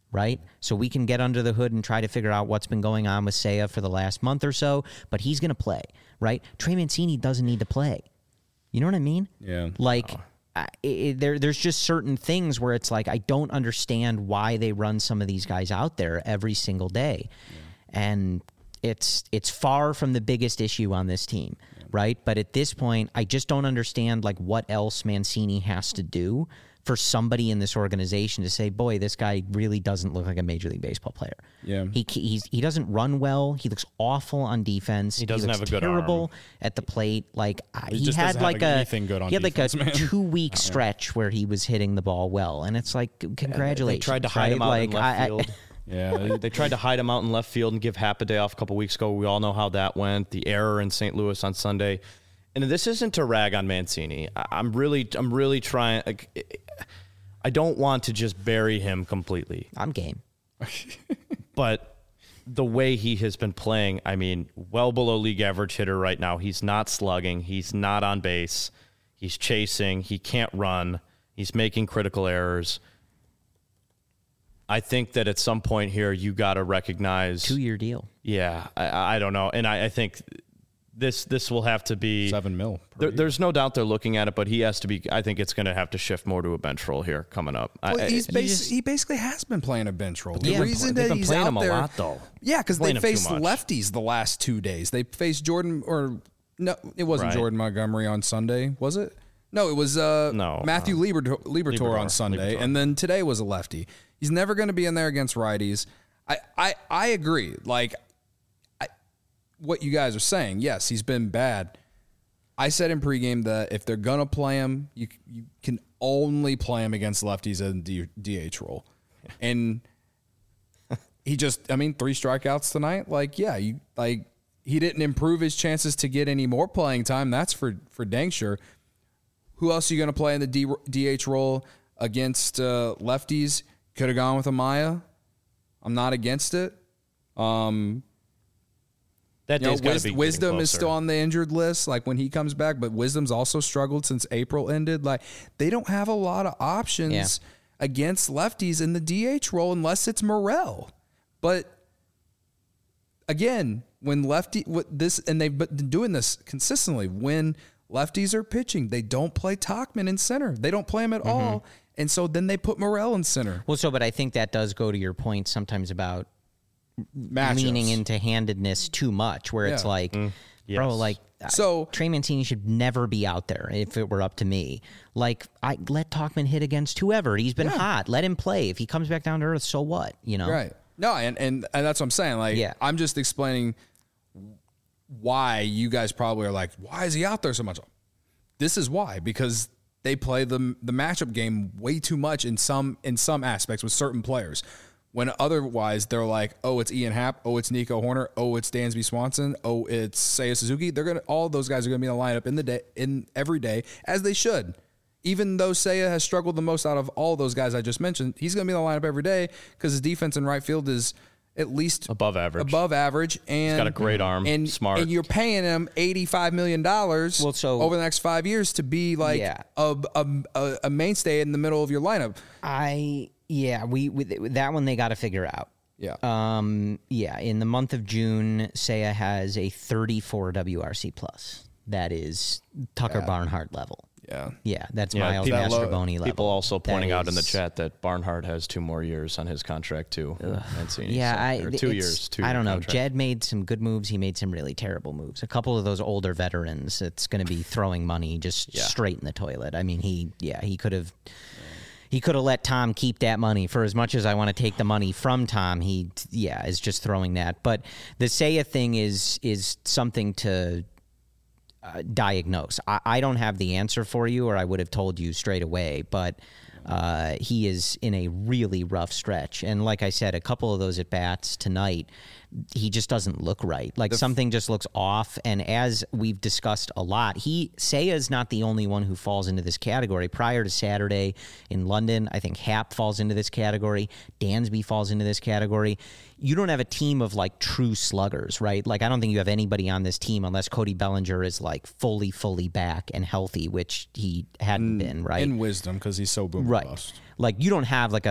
right? So we can get under the hood and try to figure out what's been going on with Seiya for the last month or so, but he's going to play, right? Trey Mancini doesn't need to play. You know what I mean? Yeah. Like, I, it, there, there's just certain things where it's like, I don't understand why they run some of these guys out there every single day. Yeah. And it's it's far from the biggest issue on this team, yeah. right? But at this point, I just don't understand, like, what else Mancini has to do for somebody in this organization to say, boy, this guy really doesn't look like a Major League Baseball player. Yeah. He he's, he doesn't run well. He looks awful on defense. He doesn't looks have a good terrible arm. at the plate. Like He he, just had doesn't like have a anything good on he had defense, like a man. two week stretch where he was hitting the ball well, and it's like congratulations. They tried to hide right? him out like, in left I, field. I, Yeah. They tried to hide him out in left field and give Happ a day off a couple weeks ago. We all know how that went. The error in Saint Louis on Sunday. And this isn't to rag on Mancini. I- I'm really, I'm really trying. I don't want to just bury him completely. I'm game. But the way he has been playing, I mean, well below league average hitter right now. He's not slugging. He's not on base. He's chasing. He can't run. He's making critical errors. I think that at some point here, you got to recognize Two year deal. Yeah, I, I don't know, and I, I think this this will have to be Seven mil. per There, year. there's no doubt they're looking at it, but he has to be. I think it's going to have to shift more to a bench role here coming up. I- Well, he's I- basi- just- he basically has been playing a bench role. The Yeah, reason they've that been he's playing out him a there, lot, though. Yeah, because they Playing him too faced much. lefties the last two days. They faced Jordan or no, it wasn't Right. Jordan Montgomery on Sunday, was it? No, it was uh, No, Matthew um, Libertor, Libertor on Libertor, Sunday, Libertor. and then today was a lefty. He's never going to be in there against righties. I, I, I agree. Like, I, what you guys are saying, yes, he's been bad. I said in pregame that if they're gonna play him, you you can only play him against lefties in D, DH role, and he just, I mean, three strikeouts tonight. Like, yeah, you like he didn't improve his chances to get any more playing time. That's for for dang sure. Who else are you gonna play in the D, DH role against uh, lefties? Could have gone with Amaya. I'm not against it. Um, that you know, day's gotta Wis- be getting Wisdom is closer. still on the injured list, like when he comes back, but Wisdom's also struggled since April ended. Like, they don't have a lot of options Yeah. against lefties in the D H role unless it's Morel. But again, when lefty what this and they've been doing this consistently, when lefties are pitching, they don't play Tachman in center. They don't play him at all. And so then they put Morel in center. Well, so, but I think that does go to your point sometimes about Matchups. leaning into handedness too much, where it's Yeah. like, bro, Yes. like, So- uh, Trey Mancini should never be out there if it were up to me. Like, I let Talkman hit against whoever. He's been Yeah. hot. Let him play. If he comes back down to earth, so what? You know? Right. No, and, and and that's what I'm saying. Like, Yeah. I'm just explaining why you guys probably are like, why is he out there so much? This is why, because they play the the matchup game way too much in some in some aspects with certain players. When otherwise they're like, oh, it's Ian Happ, oh, it's Nico Horner, oh, it's Dansby Swanson, oh, it's Seiya Suzuki. They're gonna all those guys are gonna be in the lineup in the day in every day, as they should. Even though Seiya has struggled the most out of all those guys I just mentioned, he's going to be in the lineup every day because his defense in right field is at least Above average. Above average, and got a great arm, and smart. and you're paying him eighty-five million dollars Well, so- over the next five years to be like Yeah. a, a a a mainstay in the middle of your lineup. I, yeah, we, with that one they got to figure out. Yeah, Um, yeah, in the month of June, Seiya has a thirty-four W R C plus. That is Tucker Barnhart level. yeah. Yeah, that's Yeah, Miles people- Mastroboni level. People also That pointing out in the is- chat that Barnhart has two more years on his contract too. Mancini, Yeah, so- I, or two it's- years. Two I don't know. contract. Jed made some good moves. He made some really terrible moves. A couple of those older veterans, it's going to be throwing money just Yeah. straight in the toilet. I mean, he, yeah, he could have. He could have let Tom keep that money. For as much as I want to take the money from Tom, he, yeah, is just throwing that. But the Seiya thing is is something to uh, diagnose. I, I don't have the answer for you, or I would have told you straight away. But uh, he is in a really rough stretch. And like I said, a couple of those at bats tonight, he just doesn't look right. Like something just looks off. And as we've discussed a lot, he Seiya is not the only one who falls into this category. Prior to Saturday in London, I think Happ falls into this category. Dansby falls into this category. You don't have a team of like true sluggers, right? Like I don't think you have anybody on this team unless Cody Bellinger is like fully, fully back and healthy, which he hadn't been, right? In wisdom, because he's so boom Right. bust. Like you don't have like a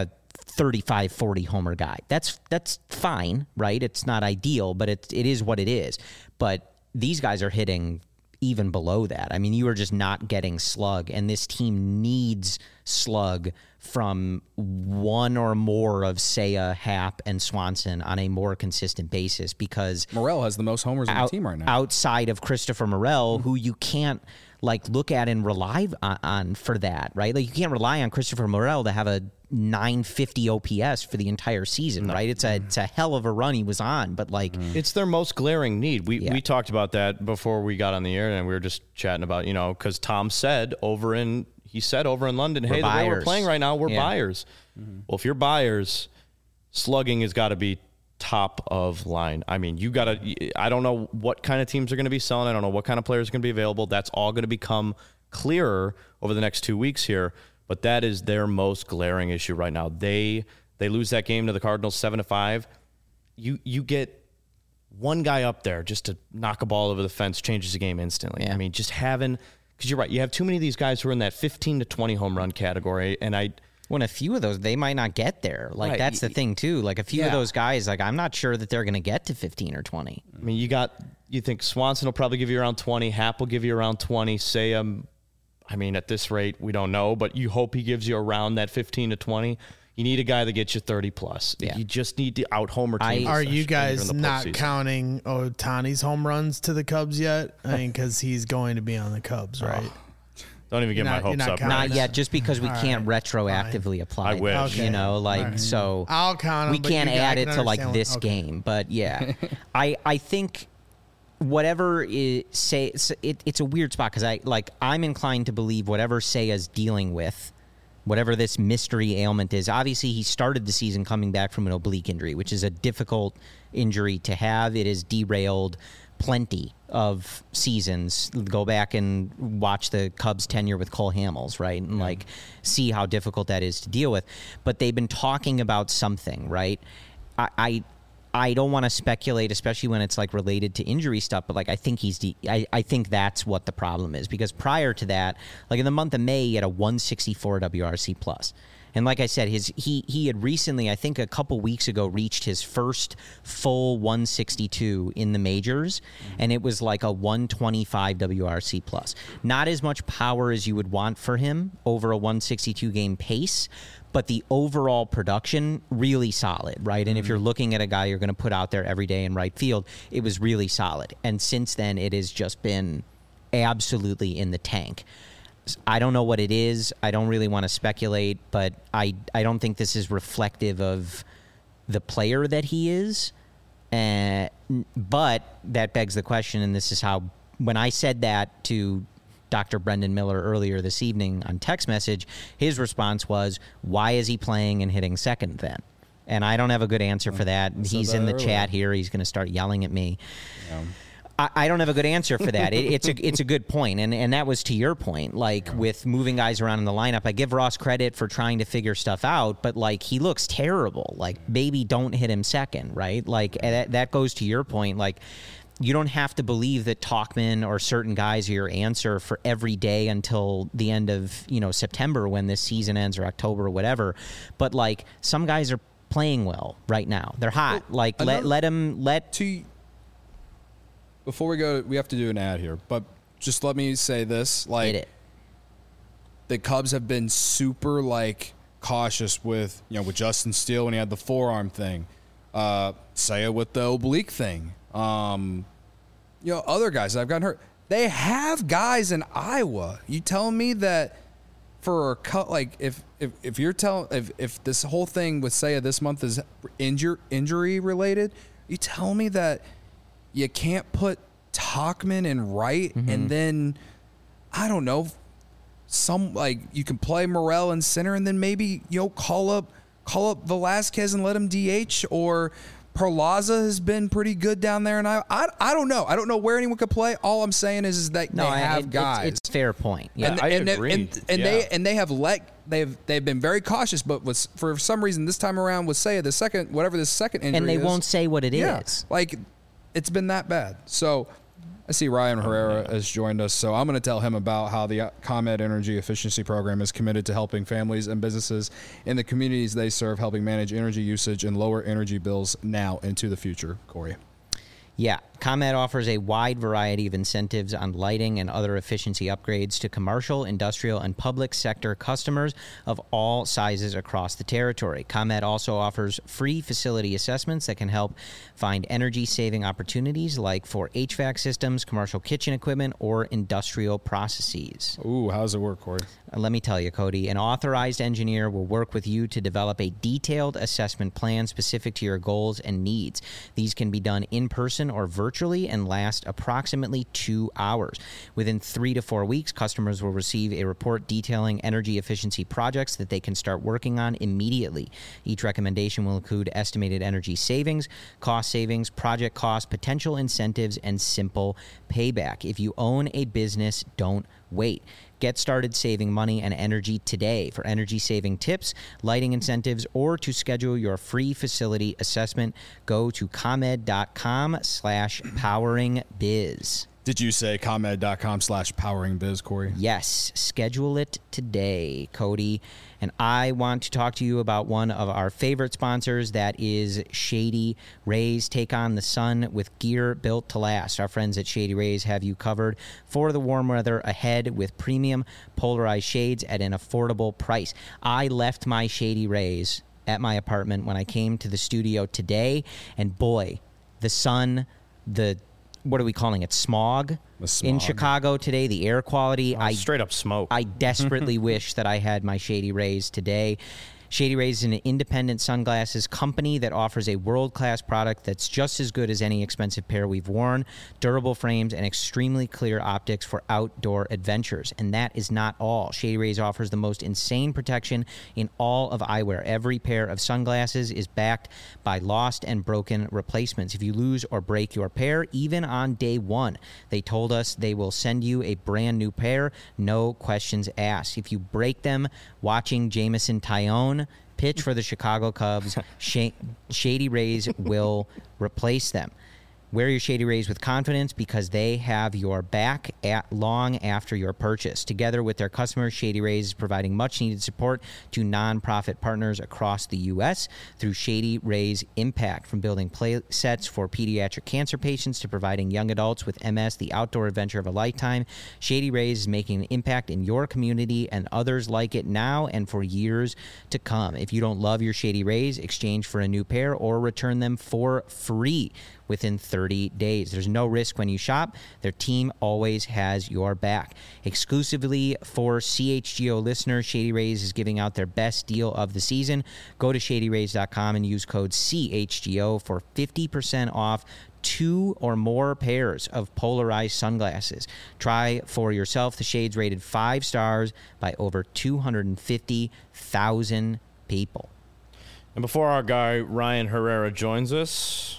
thirty-five, forty homer guy. That's that's fine, right? It's not ideal, but it it is what it is. But these guys are hitting even below that. I mean, you are just not getting slug, and this team needs slug from one or more of Seiya, Happ, and Swanson on a more consistent basis, because Morel has the most homers on out, the team right now. outside of Christopher Morel, who you can't like look at and rely on, on for that, right? Like you can't rely on Christopher Morel to have a nine fifty O P S for the entire season, no. right? It's a it's a hell of a run he was on, but like it's their most glaring need. We yeah. we talked about that before we got on the air, and we were just chatting about, you know, because Tom said over in he said over in London, we're hey, buyers. the way we're playing right now, we're yeah. buyers. Mm-hmm. Well, if you're buyers, slugging has got to be top of line. I mean, you got to. I don't know what kind of teams are going to be selling. I don't know what kind of players are going to be available. That's all going to become clearer over the next two weeks here. But that is their most glaring issue right now. They they lose that game to the Cardinals seven to five. You you get one guy up there just to knock a ball over the fence, changes the game instantly. Yeah. I mean, just having, because you're right, you have too many of these guys who are in that fifteen to twenty home run category, and I. When a few of those, they might not get there. Like, Right. that's the thing, too. Like, a few Yeah. of those guys, like, I'm not sure that they're going to get to fifteen or twenty. I mean, you got, you think Swanson will probably give you around twenty, Happ will give you around twenty, Seiya, I mean, at this rate, we don't know, but you hope he gives you around that fifteen to twenty. You need a guy that gets you thirty plus. Yeah. You just need to out homer I- teams. Are you especially guys during the not postseason. counting Otani's home runs to the Cubs yet? I mean, because he's going to be on the Cubs, right? Don't even get You're my not- you're hopes not up. counting Not that. yet, just because we All can't right. retroactively apply. I it, wish. Okay. You know, like, All right. so I'll count 'em, we but can't you guys add can it to, like, understand this what- okay. game. But, yeah, I, I think whatever is, say, it's, it, it's a weird spot, because I, like, I'm inclined to believe whatever Seiya's dealing with, whatever this mystery ailment is. Obviously, he started the season coming back from an oblique injury, which is a difficult injury to have. It has derailed plenty of seasons. Go back and watch the Cubs tenure with Cole Hamels, right? And, like, see how difficult that is to deal with. But they've been talking about something, right? I... I I don't want to speculate, especially when it's like related to injury stuff, but like I think he's de- I, I think that's what the problem is, because prior to that, like in the month of May, he had a one sixty-four W R C plus. And like I said, his he he had recently, I think a couple weeks ago, reached his first full one sixty-two in the majors, and it was like a one twenty-five W R C plus. Not as much power as you would want for him over a one sixty-two game pace, but the overall production, really solid, right? And if you're looking at a guy you're going to put out there every day in right field, it was really solid. And since then, it has just been absolutely in the tank. I don't know what it is. I don't really want to speculate, but I, I don't think this is reflective of the player that he is. Uh, but that begs the question, and this is how, when I said that to Doctor Brendan Miller earlier this evening on text message, his response was, why is he playing and hitting second then? And I don't have a good answer for that. He's that in the earlier. chat here. He's going to start yelling at me. Yeah. I, I don't have a good answer for that. It, it's a it's a good point, and and that was to your point. Like with moving guys around in the lineup, I give Ross credit for trying to figure stuff out, but like he looks terrible. Like baby, don't hit him second, right? Like and that that goes to your point. Like you don't have to believe that Tauchman or certain guys are your answer for every day until the end of you know September when this season ends, or October or whatever. But like some guys are playing well right now. They're hot. Well, like let another- let them let. To before we go, we have to do an ad here, but just let me say this: like Hit it. the Cubs have been super like cautious with you know with Justin Steele when he had the forearm thing, uh, Seiya with the oblique thing, um, you know other guys that have gotten hurt. They have guys in Iowa. You telling me that for a cut like if if if you're telling if if this whole thing with Seiya this month is injur- injury related, you tell me that you can't put Tauchman in right, Mm-hmm. and then I don't know, some like you can play Morel in center, and then maybe you know call up call up Velasquez and let him D H, or Perlaza has been pretty good down there, and I I, I don't know I don't know where anyone could play. All I'm saying is is that No, they I- have it- guys. It's, it's a fair point. Yeah. and, I and, agree. and, and Yeah. they and they have let they've they've been very cautious, but was for some reason this time around with Seiya the second whatever the second injury and they is, won't say what it is. yeah, like it's been that bad. So I see Ryan Herrera has joined us, so I'm going to tell him about how the ComEd Energy Efficiency Program is committed to helping families and businesses in the communities they serve, helping manage energy usage and lower energy bills now into the future. Corey. Yeah, ComEd offers a wide variety of incentives on lighting and other efficiency upgrades to commercial, industrial, and public sector customers of all sizes across the territory. ComEd also offers free facility assessments that can help find energy-saving opportunities like for H V A C systems, commercial kitchen equipment, or industrial processes. Ooh, how does it work, Corey? Uh, Let me tell you, Cody, an authorized engineer will work with you to develop a detailed assessment plan specific to your goals and needs. These can be done in person or virtually and last approximately two hours. Within three to four weeks, customers will receive a report detailing energy efficiency projects that they can start working on immediately. Each recommendation will include estimated energy savings, cost savings, project costs, potential incentives, and simple payback. If you own a business, don't wait. Get started saving money and energy today. For energy saving tips, lighting incentives, or to schedule your free facility assessment, go to ComEd.com slash powering biz. Did you say ComEd.com slash powering biz, Corey? Yes, schedule it today, Cody. And I want to talk to you about one of our favorite sponsors, that is Shady Rays. Take on the sun with gear built to last. Our friends at Shady Rays have you covered for the warm weather ahead with premium polarized shades at an affordable price. I left my Shady Rays at my apartment when I came to the studio today, and boy, the sun, the what are we calling it? Smog, smog. in Chicago today. The air quality. Oh, I straight up smoke. I desperately wish that I had my Shady Rays today. Shady Rays is an independent sunglasses company that offers a world-class product that's just as good as any expensive pair we've worn, durable frames, and extremely clear optics for outdoor adventures. And that is not all. Shady Rays offers the most insane protection in all of eyewear. Every pair of sunglasses is backed by lost and broken replacements. If you lose or break your pair, even on day one, they told us they will send you a brand new pair, no questions asked. If you break them watching Jameson Taillon pitch for the Chicago Cubs, Sh- Shady Rays will replace them. Wear your Shady Rays with confidence because they have your back at long after your purchase. Together with their customers, Shady Rays is providing much-needed support to nonprofit partners across the U S through Shady Rays Impact. From building play sets for pediatric cancer patients to providing young adults with M S the outdoor adventure of a lifetime, Shady Rays is making an impact in your community and others like it now and for years to come. If you don't love your Shady Rays, exchange for a new pair or return them for free within thirty days. There's no risk when you shop. Their team always has your back. Exclusively for C H G O listeners, Shady Rays is giving out their best deal of the season. Go to shady rays dot com and use code C H G O for fifty percent off two or more pairs of polarized sunglasses. Try for yourself the shades rated five stars by over two hundred fifty thousand people. And before our guy Ryan Herrera joins us,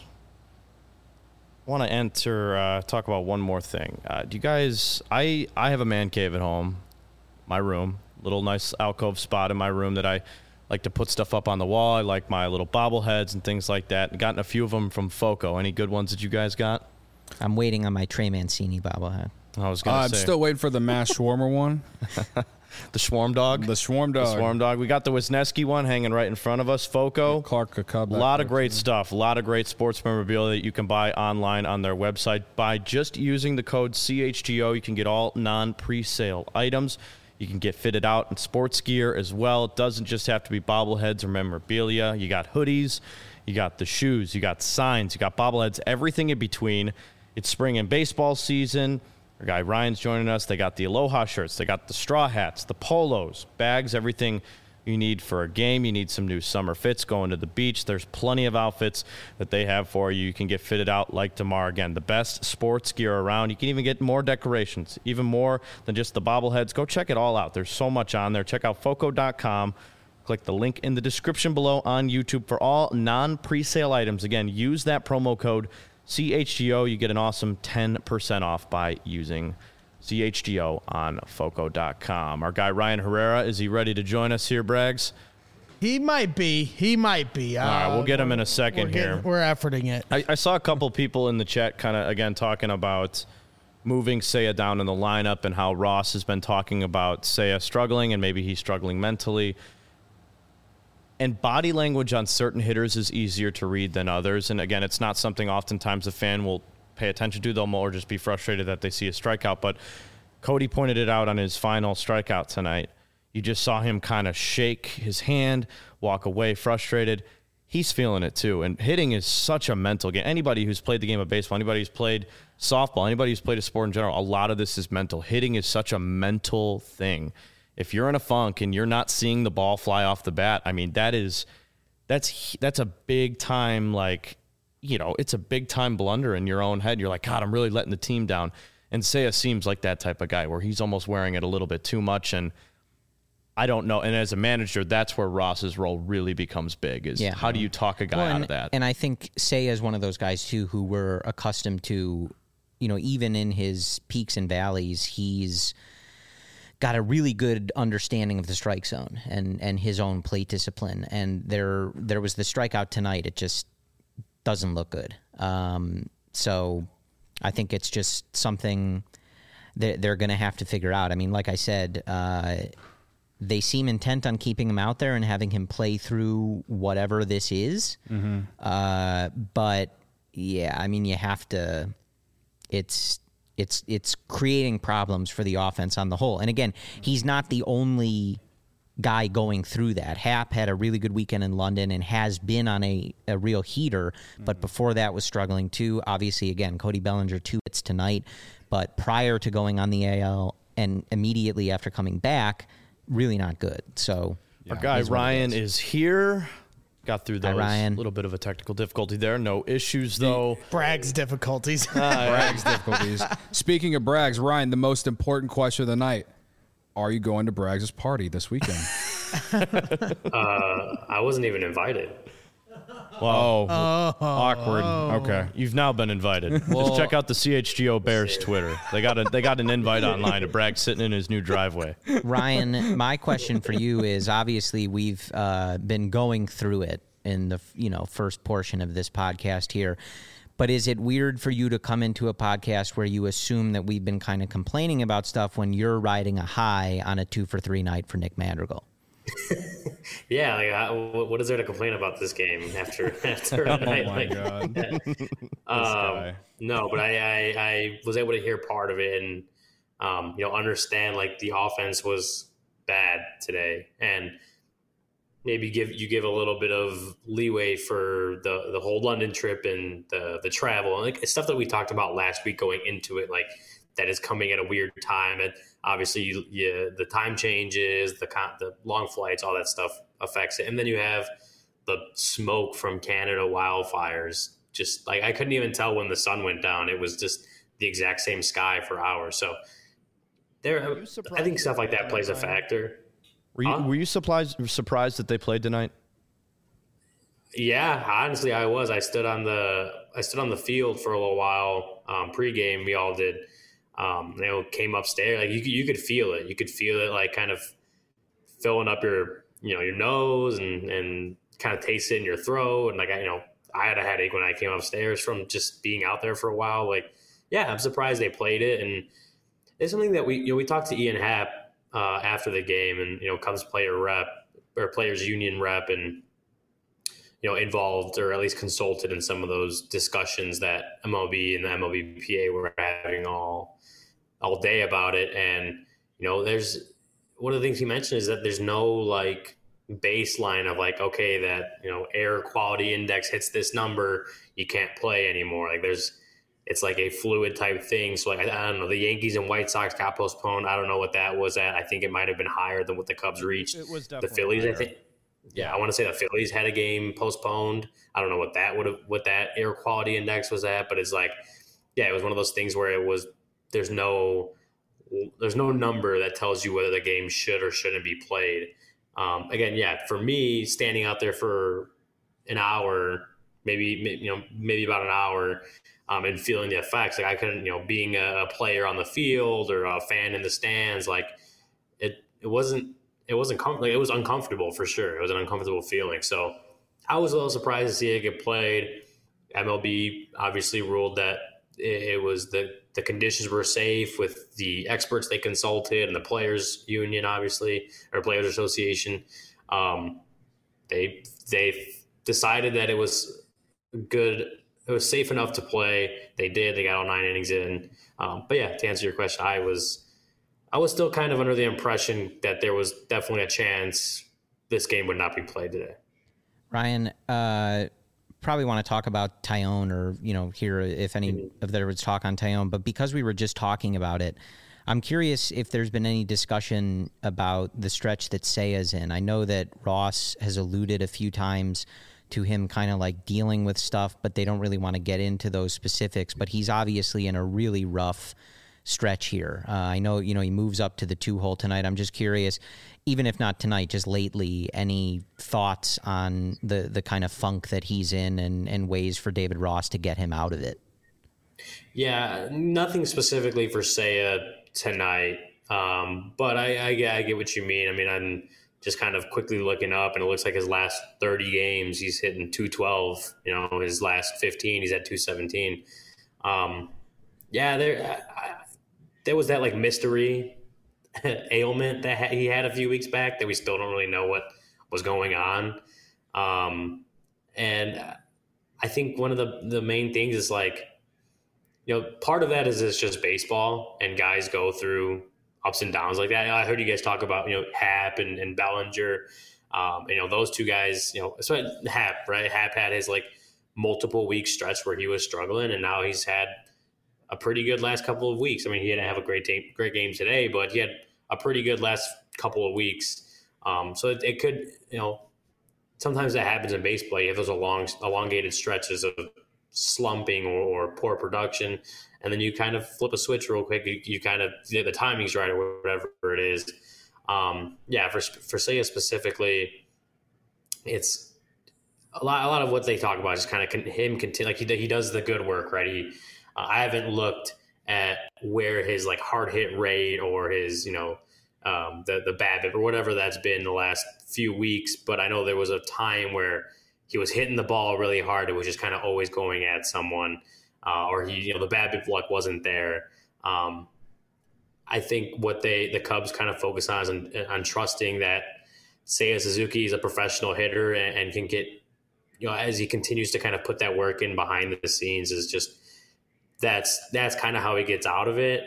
I want to enter, uh, talk about one more thing. Uh, do you guys, I, I have a man cave at home, my room, little nice alcove spot in my room that I like to put stuff up on the wall. I like my little bobbleheads and things like that. I've gotten a few of them from Foco. Any good ones that you guys got? I'm waiting on my Trey Mancini bobblehead. I was Uh, going to I'm say. still waiting for the mass shawarma one. The Swarm Dog? The Swarm Dog. The Swarm Dog. We got the Wisniewski one hanging right in front of us, Foco. Clark a Cub. A lot of great stuff. A lot of great sports memorabilia that you can buy online on their website. By just using the code C H G O, you can get all non-presale items. You can get fitted out in sports gear as well. It doesn't just have to be bobbleheads or memorabilia. You got hoodies, you got the shoes, you got signs, you got bobbleheads, everything in between. It's spring and baseball season. Our guy Ryan's joining us. They got the Aloha shirts. They got the straw hats, the polos, bags, everything you need for a game. You need some new summer fits going to the beach. There's plenty of outfits that they have for you. You can get fitted out like tomorrow. Again, the best sports gear around. You can even get more decorations, even more than just the bobbleheads. Go check it all out. There's so much on there. Check out foco dot com. Click the link in the description below on YouTube for all non-presale items. Again, use that promo code C H G O. You get an awesome ten percent off by using C H G O on foco dot com. Our guy Ryan Herrera, is he ready to join us here, Braggs? He might be. He might be. All right, we'll get him in a we're second getting- here. We're efforting it. I, I saw a couple people in the chat kind of, again, talking about moving Seiya down in the lineup and how Ross has been talking about Seiya struggling and maybe he's struggling mentally. And body language on certain hitters is easier to read than others. And again, it's not something oftentimes a fan will pay attention to. They'll more just be frustrated that they see a strikeout. But Cody pointed it out on his final strikeout tonight. You just saw him kind of shake his hand, walk away frustrated. He's feeling it too. And hitting is such a mental game. Anybody who's played the game of baseball, anybody who's played softball, anybody who's played a sport in general, a lot of this is mental. Hitting is such a mental thing. If you're in a funk and you're not seeing the ball fly off the bat, I mean, that is, that's, that's a big time, like, you know, it's a big time blunder in your own head. You're like, God, I'm really letting the team down. And Seiya seems like that type of guy where he's almost wearing it a little bit too much. And I don't know. And as a manager, that's where Ross's role really becomes big is yeah. how do you talk a guy well, and, out of that? And I think Seiya is one of those guys, too, who we're accustomed to, you know, even in his peaks and valleys, he's got a really good understanding of the strike zone and, and his own plate discipline. And there there was the strikeout tonight. It just doesn't look good. Um, so I think it's just something that they're going to have to figure out. I mean, like I said, uh, they seem intent on keeping him out there and having him play through whatever this is. Mm-hmm. Uh, but, yeah, I mean, you have to – it's – It's it's creating problems for the offense on the whole. And again, he's not the only guy going through that. Happ had a really good weekend in London and has been on a, a real heater, but mm-hmm. before that was struggling too. Obviously, again, Cody Bellinger, two hits tonight. But prior to going on the A L and immediately after coming back, really not good. So yeah. Our guy Ryan is here. Got through those. A little bit of a technical difficulty there. No issues, though. Bragg's difficulties. Uh, Bragg's difficulties. Speaking of Bragg's, Ryan, the most important question of the night. Are you going to Bragg's party this weekend? uh, I wasn't even invited. Whoa. Oh, awkward. Oh. Okay. You've now been invited. Well, just check out the C H G O Bears Twitter. They got a they got an invite online to Bragg sitting in his new driveway. Ryan, my question for you is obviously we've uh, been going through it in the you know first portion of this podcast here. But is it weird for you to come into a podcast where you assume that we've been kind of complaining about stuff when you're riding a high on a two for three night for Nick Madrigal? Yeah, like I, what is there to complain about this game after after a night oh my like God. that? Um, no, but I, I I was able to hear part of it and um, you know understand like the offense was bad today and maybe give you give a little bit of leeway for the the whole London trip and the the travel and like it's stuff that we talked about last week going into it like that is coming at a weird time and obviously you, you, the time changes, the the long flights, all that stuff affects it. And then you have the smoke from Canada wildfires. Just like I couldn't even tell when the sun went down. It was just the exact same sky for hours. So there, I think stuff like that plays a factor. Were you, huh? were you surprised, surprised that they played tonight? Yeah, honestly, I was. I stood on the I stood on the field for a little while um, pregame. We all did. Um, you know, came upstairs. Like you, you could feel it. You could feel it, like kind of filling up your, you know, your nose and and kind of taste it in your throat. And like I, you know, I had a headache when I came upstairs from just being out there for a while. Like, yeah, I'm surprised they played it. And it's something that we, you know, we talked to Ian Happ uh, after the game, and you know, Cubs player rep or players union rep, and you know, involved or at least consulted in some of those discussions that M L B and the M L B P A were having all. all day about it. And, you know, there's one of the things he mentioned is that there's no like baseline of like, okay, that, you know, air quality index hits this number, you can't play anymore. Like there's, it's like a fluid type thing. So like, I, I don't know, the Yankees and White Sox got postponed. I don't know what that was at. I think it might've been higher than what the Cubs reached. It was definitely the Phillies, higher. I think. Yeah. I want to say the Phillies had a game postponed. I don't know what that would have, what that air quality index was at, but it's like, yeah, it was one of those things where it was, there's no there's no number that tells you whether the game should or shouldn't be played. Um, again, yeah, for me, standing out there for an hour, maybe you know maybe about an hour, um, and feeling the effects, like I couldn't, you know, being a player on the field or a fan in the stands, like it it wasn't it wasn't com- like it was uncomfortable for sure. It was an uncomfortable feeling. So I was a little surprised to see it get played. M L B obviously ruled that it, it was the the the conditions were safe with the experts they consulted and the players union, obviously, or players association. Um, they, they decided that it was good. It was safe enough to play. They did, they got all nine innings in. Um, but yeah, to answer your question, I was, I was still kind of under the impression that there was definitely a chance this game would not be played today. Ryan, uh, probably want to talk about Taillon, or, you know, hear if any mm-hmm. of there was talk on Taillon, but because we were just talking about it, I'm curious if there's been any discussion about the stretch that Seiya's in. I know that Ross has alluded a few times to him kind of like dealing with stuff, but they don't really want to get into those specifics, but he's obviously in a really rough stretch here. Uh, I know, you know, he moves up to the two hole tonight. I'm just curious, even if not tonight, just lately, any thoughts on the, the kind of funk that he's in, and, and ways for David Ross to get him out of it? Yeah, nothing specifically for Seiya tonight. Um, but I, I, I get what you mean. I mean, I'm just kind of quickly looking up, and it looks like his last thirty games, he's hitting two twelve. You know, his last fifteen, he's at two seventeen. Um, yeah, there, I, there was that like mystery ailment that he had a few weeks back that we still don't really know what was going on. Um, and I think one of the, the main things is like, you know, part of that is it's just baseball, and guys go through ups and downs like that. I heard you guys talk about, you know, Happ and, and Bellinger. Um, you know, those two guys, you know, especially Happ, right? Happ had his like multiple week stretch where he was struggling, and now he's had a pretty good last couple of weeks. I mean, he didn't have a great game, great game today, but he had a pretty good last couple of weeks. Um, so it, it could, you know, sometimes that happens in baseball. You have those long, elongated stretches of slumping or, or poor production, and then you kind of flip a switch real quick. You, you kind of, the timing's right or whatever it is. Um, yeah, for for Seiya specifically, it's a lot. A lot of what they talk about is kind of him continue, like he he does the good work, right? He, uh, I haven't looked at where his like hard hit rate or his, you know, um, the the BABIP or whatever that's been the last few weeks, but I know there was a time where he was hitting the ball really hard. It was just kind of always going at someone, uh, or he, you know, the BABIP luck wasn't there. Um, I think what they, the Cubs kind of focus on is on, on trusting that Seiya Suzuki is a professional hitter and, and can get, you know, as he continues to kind of put that work in behind the scenes, is just, that's, that's kind of how he gets out of it.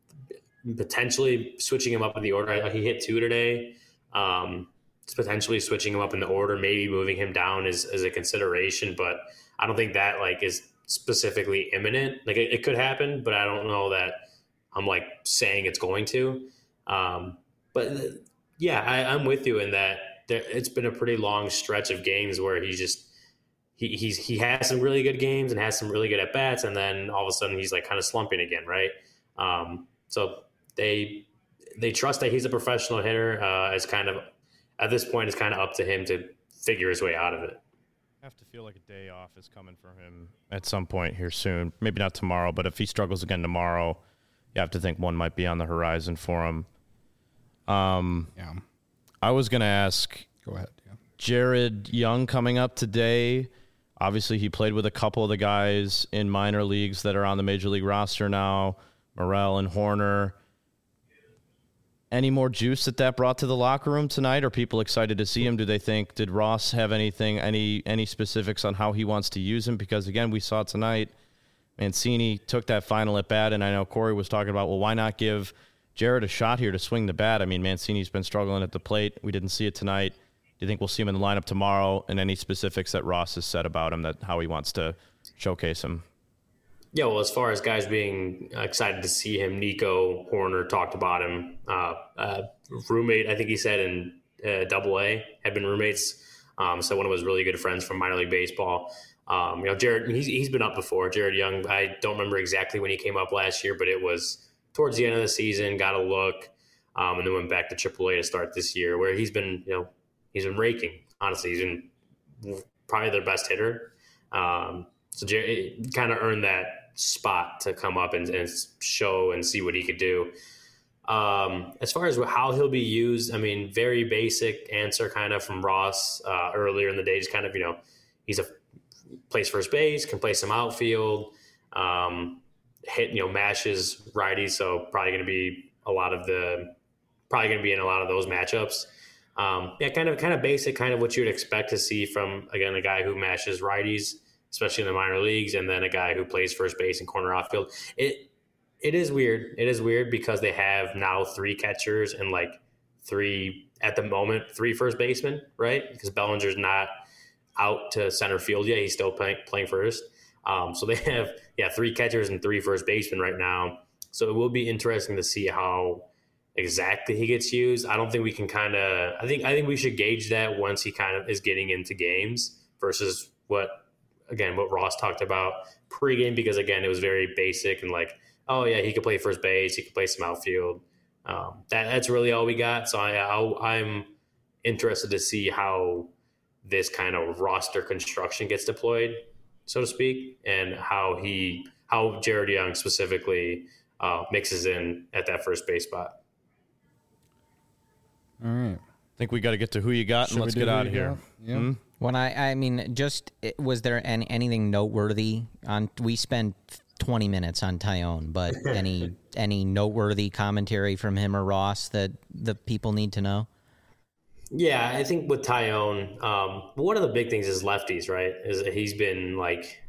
Potentially switching him up in the order. He hit two today. Um, potentially switching him up in the order, maybe moving him down is, is a consideration, but I don't think that like is specifically imminent. Like it, it could happen, but I don't know that I'm like saying it's going to. Um, but yeah, I, I'm with you in that there, it's been a pretty long stretch of games where he's just, he he's, he has some really good games and has some really good at bats. And then all of a sudden he's like kind of slumping again. Right. Um, so they, they trust that he's a professional hitter. Uh, it's kind of, at this point, it's kind of up to him to figure his way out of it. I have to feel like a day off is coming for him at some point here soon. Maybe not tomorrow, but if he struggles again tomorrow, you have to think one might be on the horizon for him. Um, yeah. I was going to ask. Go ahead. Yeah. Jared Young coming up today. Obviously, he played with a couple of the guys in minor leagues that are on the major league roster now, Morel and Horner. Any more juice that that brought to the locker room tonight? Are people excited to see him? Do they think, did Ross have anything, any any specifics on how he wants to use him? Because, again, we saw tonight, Mancini took that final at bat, and I know Corey was talking about, well, why not give Jared a shot here to swing the bat? I mean, Mancini's been struggling at the plate. We didn't see it tonight. Do you think we'll see him in the lineup tomorrow? And any specifics that Ross has said about him, that how he wants to showcase him? Yeah, well, as far as guys being excited to see him, Nico Horner talked about him. Uh, uh, roommate, I think he said in uh, Double A, had been roommates. Um, so one of his really good friends from minor league baseball. Um, you know, Jared, he's he's been up before. Jared Young, I don't remember exactly when he came up last year, but it was towards the end of the season. Got a look, um, and then went back to Triple A to start this year, where he's been, you know, he's been raking. Honestly, he's been probably their best hitter. Um, so Jared kind of earned that spot to come up and, and show and see what he could do. Um, as far as how he'll be used, I mean, very basic answer kind of from Ross uh, earlier in the day. Just kind of, you know, he's a plays first base, can play some outfield. Um, hit, you know, mashes righties. So probably going to be a lot of the, probably going to be in a lot of those matchups. Um, yeah, kind of, kind of basic, kind of what you would expect to see from, again, a guy who mashes righties, especially in the minor leagues, and then a guy who plays first base and corner outfield. It, it is weird. It is weird because they have now three catchers and like three, at the moment, three first basemen, right? Because Bellinger's not out to center field yet. He's still playing, playing first. Um, so they have, yeah, three catchers and three first basemen right now. So it will be interesting to see how exactly he gets used. I don't think we can kind of, I think, I think we should gauge that once he kind of is getting into games versus what, again, what Ross talked about pregame, because again, it was very basic and like, oh yeah, he could play first base. He could play some outfield. Um, that, that's really all we got. So I, I, I'm interested to see how this kind of roster construction gets deployed, so to speak, and how he, how Jared Young specifically uh, mixes in at that first base spot. All right. I think we got to get to who you got, Should and let's we do get who out of you here. got? Yeah. Hmm? When I, I mean, just was there any, anything noteworthy on? We spent twenty minutes on Tyone, but any any noteworthy commentary from him or Ross that the people need to know? Yeah, I think with Tyone, um, one of the big things is lefties, right? Is that he's been like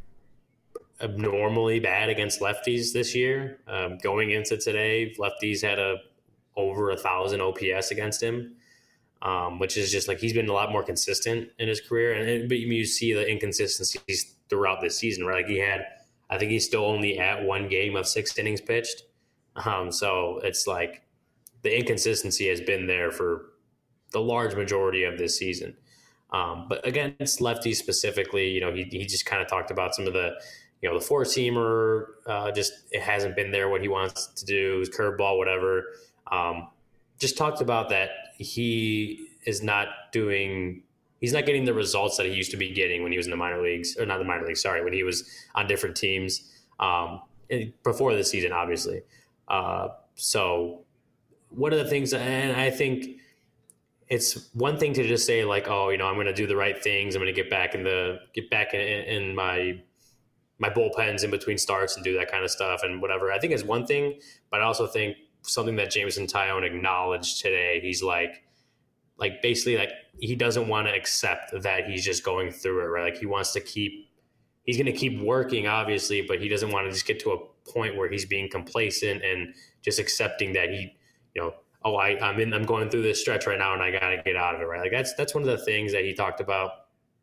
abnormally bad against lefties this year. Um, going into today, lefties had a over a thousand O P S against him. Um, which is just like he's been a lot more consistent in his career, and, and but you see the inconsistencies throughout this season, right? Like he had, I think he's still only at one game of six innings pitched, um, so it's like the inconsistency has been there for the large majority of this season. Um, but against lefties specifically, you know, he he just kind of talked about some of the, you know, the four seamer, uh, just it hasn't been there what he wants to do, his curveball, whatever. Um, just talked about that he is not doing, he's not getting the results that he used to be getting when he was in the minor leagues, or not the minor leagues, sorry, when he was on different teams um, before the season, obviously. Uh, so one of the things, and I think it's one thing to just say like, oh, you know, I'm going to do the right things. I'm going to get back in the, get back in, in my, my bullpens in between starts and do that kind of stuff and whatever. I think it's one thing, but I also think something that Jameson Taillon acknowledged today. He's like, like basically like he doesn't want to accept that he's just going through it, right? Like he wants to keep, he's going to keep working obviously, but he doesn't want to just get to a point where he's being complacent and just accepting that he, you know, oh, I, I'm in, I'm going through this stretch right now and I got to get out of it, right? Like that's, that's one of the things that he talked about.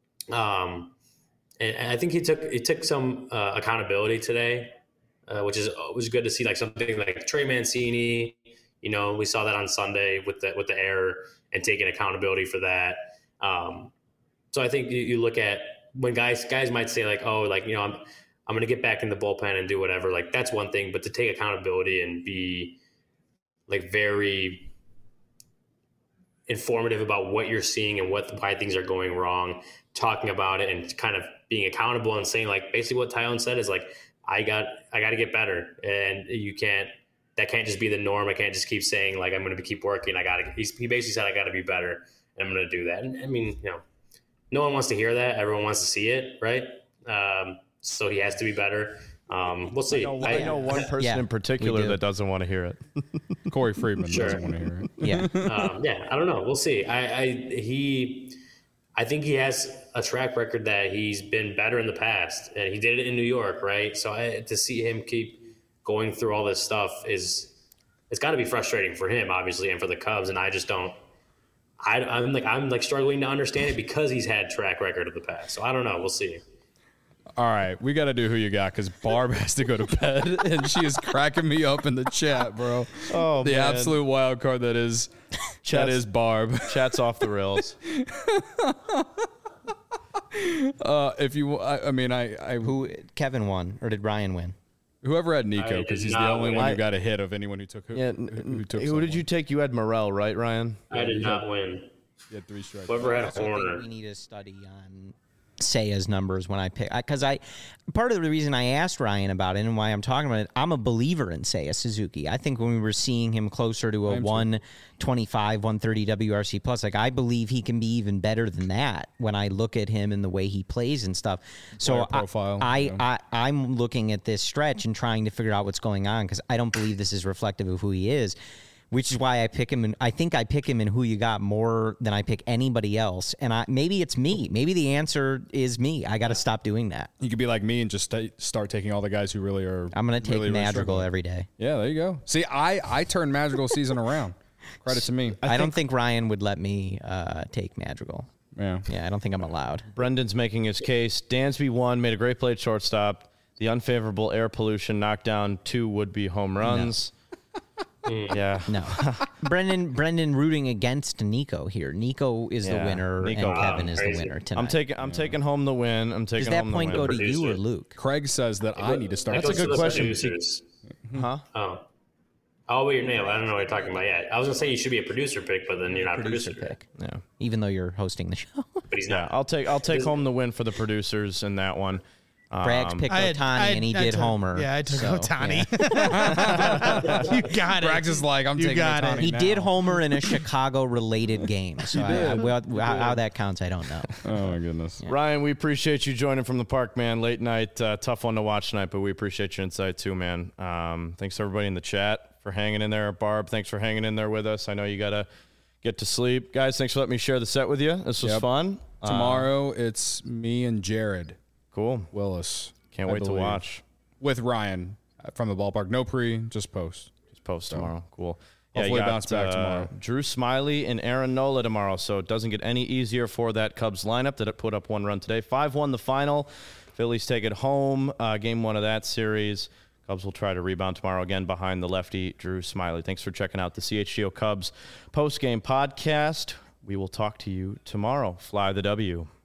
Um, and, and I think he took, he took some uh, accountability today. Uh, which is was good to see, like something like Trey Mancini. You know, we saw that on Sunday with the with the error and taking accountability for that. Um, so I think you, you look at when guys guys might say like, oh, like you know, I'm I'm going to get back in the bullpen and do whatever. Like that's one thing, but to take accountability and be like very informative about what you're seeing and what why things are going wrong, talking about it and kind of being accountable and saying like basically what Tyone said is like, I got, I got to get better, and you can't. That can't just be the norm. I can't just keep saying like I'm going to keep working. I got to. He basically said I got to be better, and I'm going to do that. And I mean, you know, no one wants to hear that. Everyone wants to see it, right? Um, so he has to be better. Um, we'll see. I know, I know one person Yeah, in particular do. that doesn't want to hear it. Corey Friedman Sure. doesn't want to hear it. Yeah. um, yeah, I don't know. We'll see. I, I he, I think he has a track record that he's been better in the past, and he did it in New York, right? So I, to see him keep going through all this stuff is, it's got to be frustrating for him, obviously, and for the Cubs. And I just don't. I, I'm like I'm like struggling to understand it because he's had track record of the past. So I don't know. We'll see. All right, we got to do who you got because Barb has to go to bed, and she is cracking me up in the chat, bro. Oh, the man. absolute wild card that is that Chat's- is Barb. Chat's off the rails. Uh, if you, I, I mean, I, I Who Kevin won, or did Ryan win? whoever had I Nico did because he's the not only win. one I- who got a hit of anyone who took who, Yeah. who, who took. Who did you take? You had Morel, right, Ryan? I did not win. You had three strikes. Whoever had I also think Horner. we need a study on Seiya's numbers when I pick, because I, part of the reason I asked Ryan about it and why I'm talking about it, I'm a believer in Seiya Suzuki. I think when we were seeing him closer to a one twenty-five, one thirty W R C plus, like I believe he can be even better than that when I look at him and the way he plays and stuff. So Player profile, I, yeah. I, I, I'm looking at this stretch and trying to figure out what's going on because I don't believe this is reflective of who he is. Which is why I pick him, and I think I pick him in Who You Got more than I pick anybody else. And I maybe it's me. Maybe the answer is me. I got to stop doing that. You could be like me and just st- start taking all the guys who really are. I'm going to take really, really Madrigal struggling. every day. Yeah, there you go. See, I I turned Madrigal season around. Credit to me. I, I don't think Ryan would let me uh, take Madrigal. Yeah, yeah, I don't think I'm allowed. Brendan's making his case. Dansby won, made a great play at shortstop. The unfavorable air pollution knocked down two would-be home runs. No. Yeah. No. Brendan Brendan rooting against Nico here. Nico is yeah. the winner Nico. and Kevin Wow, is crazy. the winner tonight. I'm taking I'm taking home the win. I'm taking Does that home point the go win. to you or Luke? Craig says that I need to start. That's a good the question. producers. Huh? Oh. Oh, wait, your name. I don't know what you're talking about yet. I was going to say you should be a producer pick, but then you're not a Producer producer pick. Yeah. Even though you're hosting the show. But he's Yeah, not. I'll take I'll take home the win for the producers in that one. Bragg's Um, picked I had- Otani I had- and he I did took- Homer. Yeah, I took so, Otani. yeah. You got it. Bragg's is like, I'm You taking got Otani it. He now. did Homer in a Chicago-related game. So I, I, well, how, how that counts, I don't know. Oh my goodness. Ryan, we appreciate you joining from the park, man. Late night, uh, tough one to watch tonight, but we appreciate your insight too, man. Um, thanks to everybody in the chat for hanging in there. Barb, thanks for hanging in there with us. I know you got to get to sleep. Guys, thanks for letting me share the set with you. This was Yep. fun. Tomorrow it's me and Jared Uh, cool. Willis. Can't I wait to believe. watch. With Ryan from the ballpark. No pre, just post. Just post tomorrow. Cool. Hopefully you got, bounce back uh, tomorrow. Drew Smiley and Aaron Nola tomorrow, so it doesn't get any easier for that Cubs lineup that put up one run today. five one the final. Phillies take it home. Uh, game one of that series. Cubs will try to rebound tomorrow again behind the lefty, Drew Smiley. Thanks for checking out the C H G O Cubs post-game podcast. We will talk to you tomorrow. Fly the W.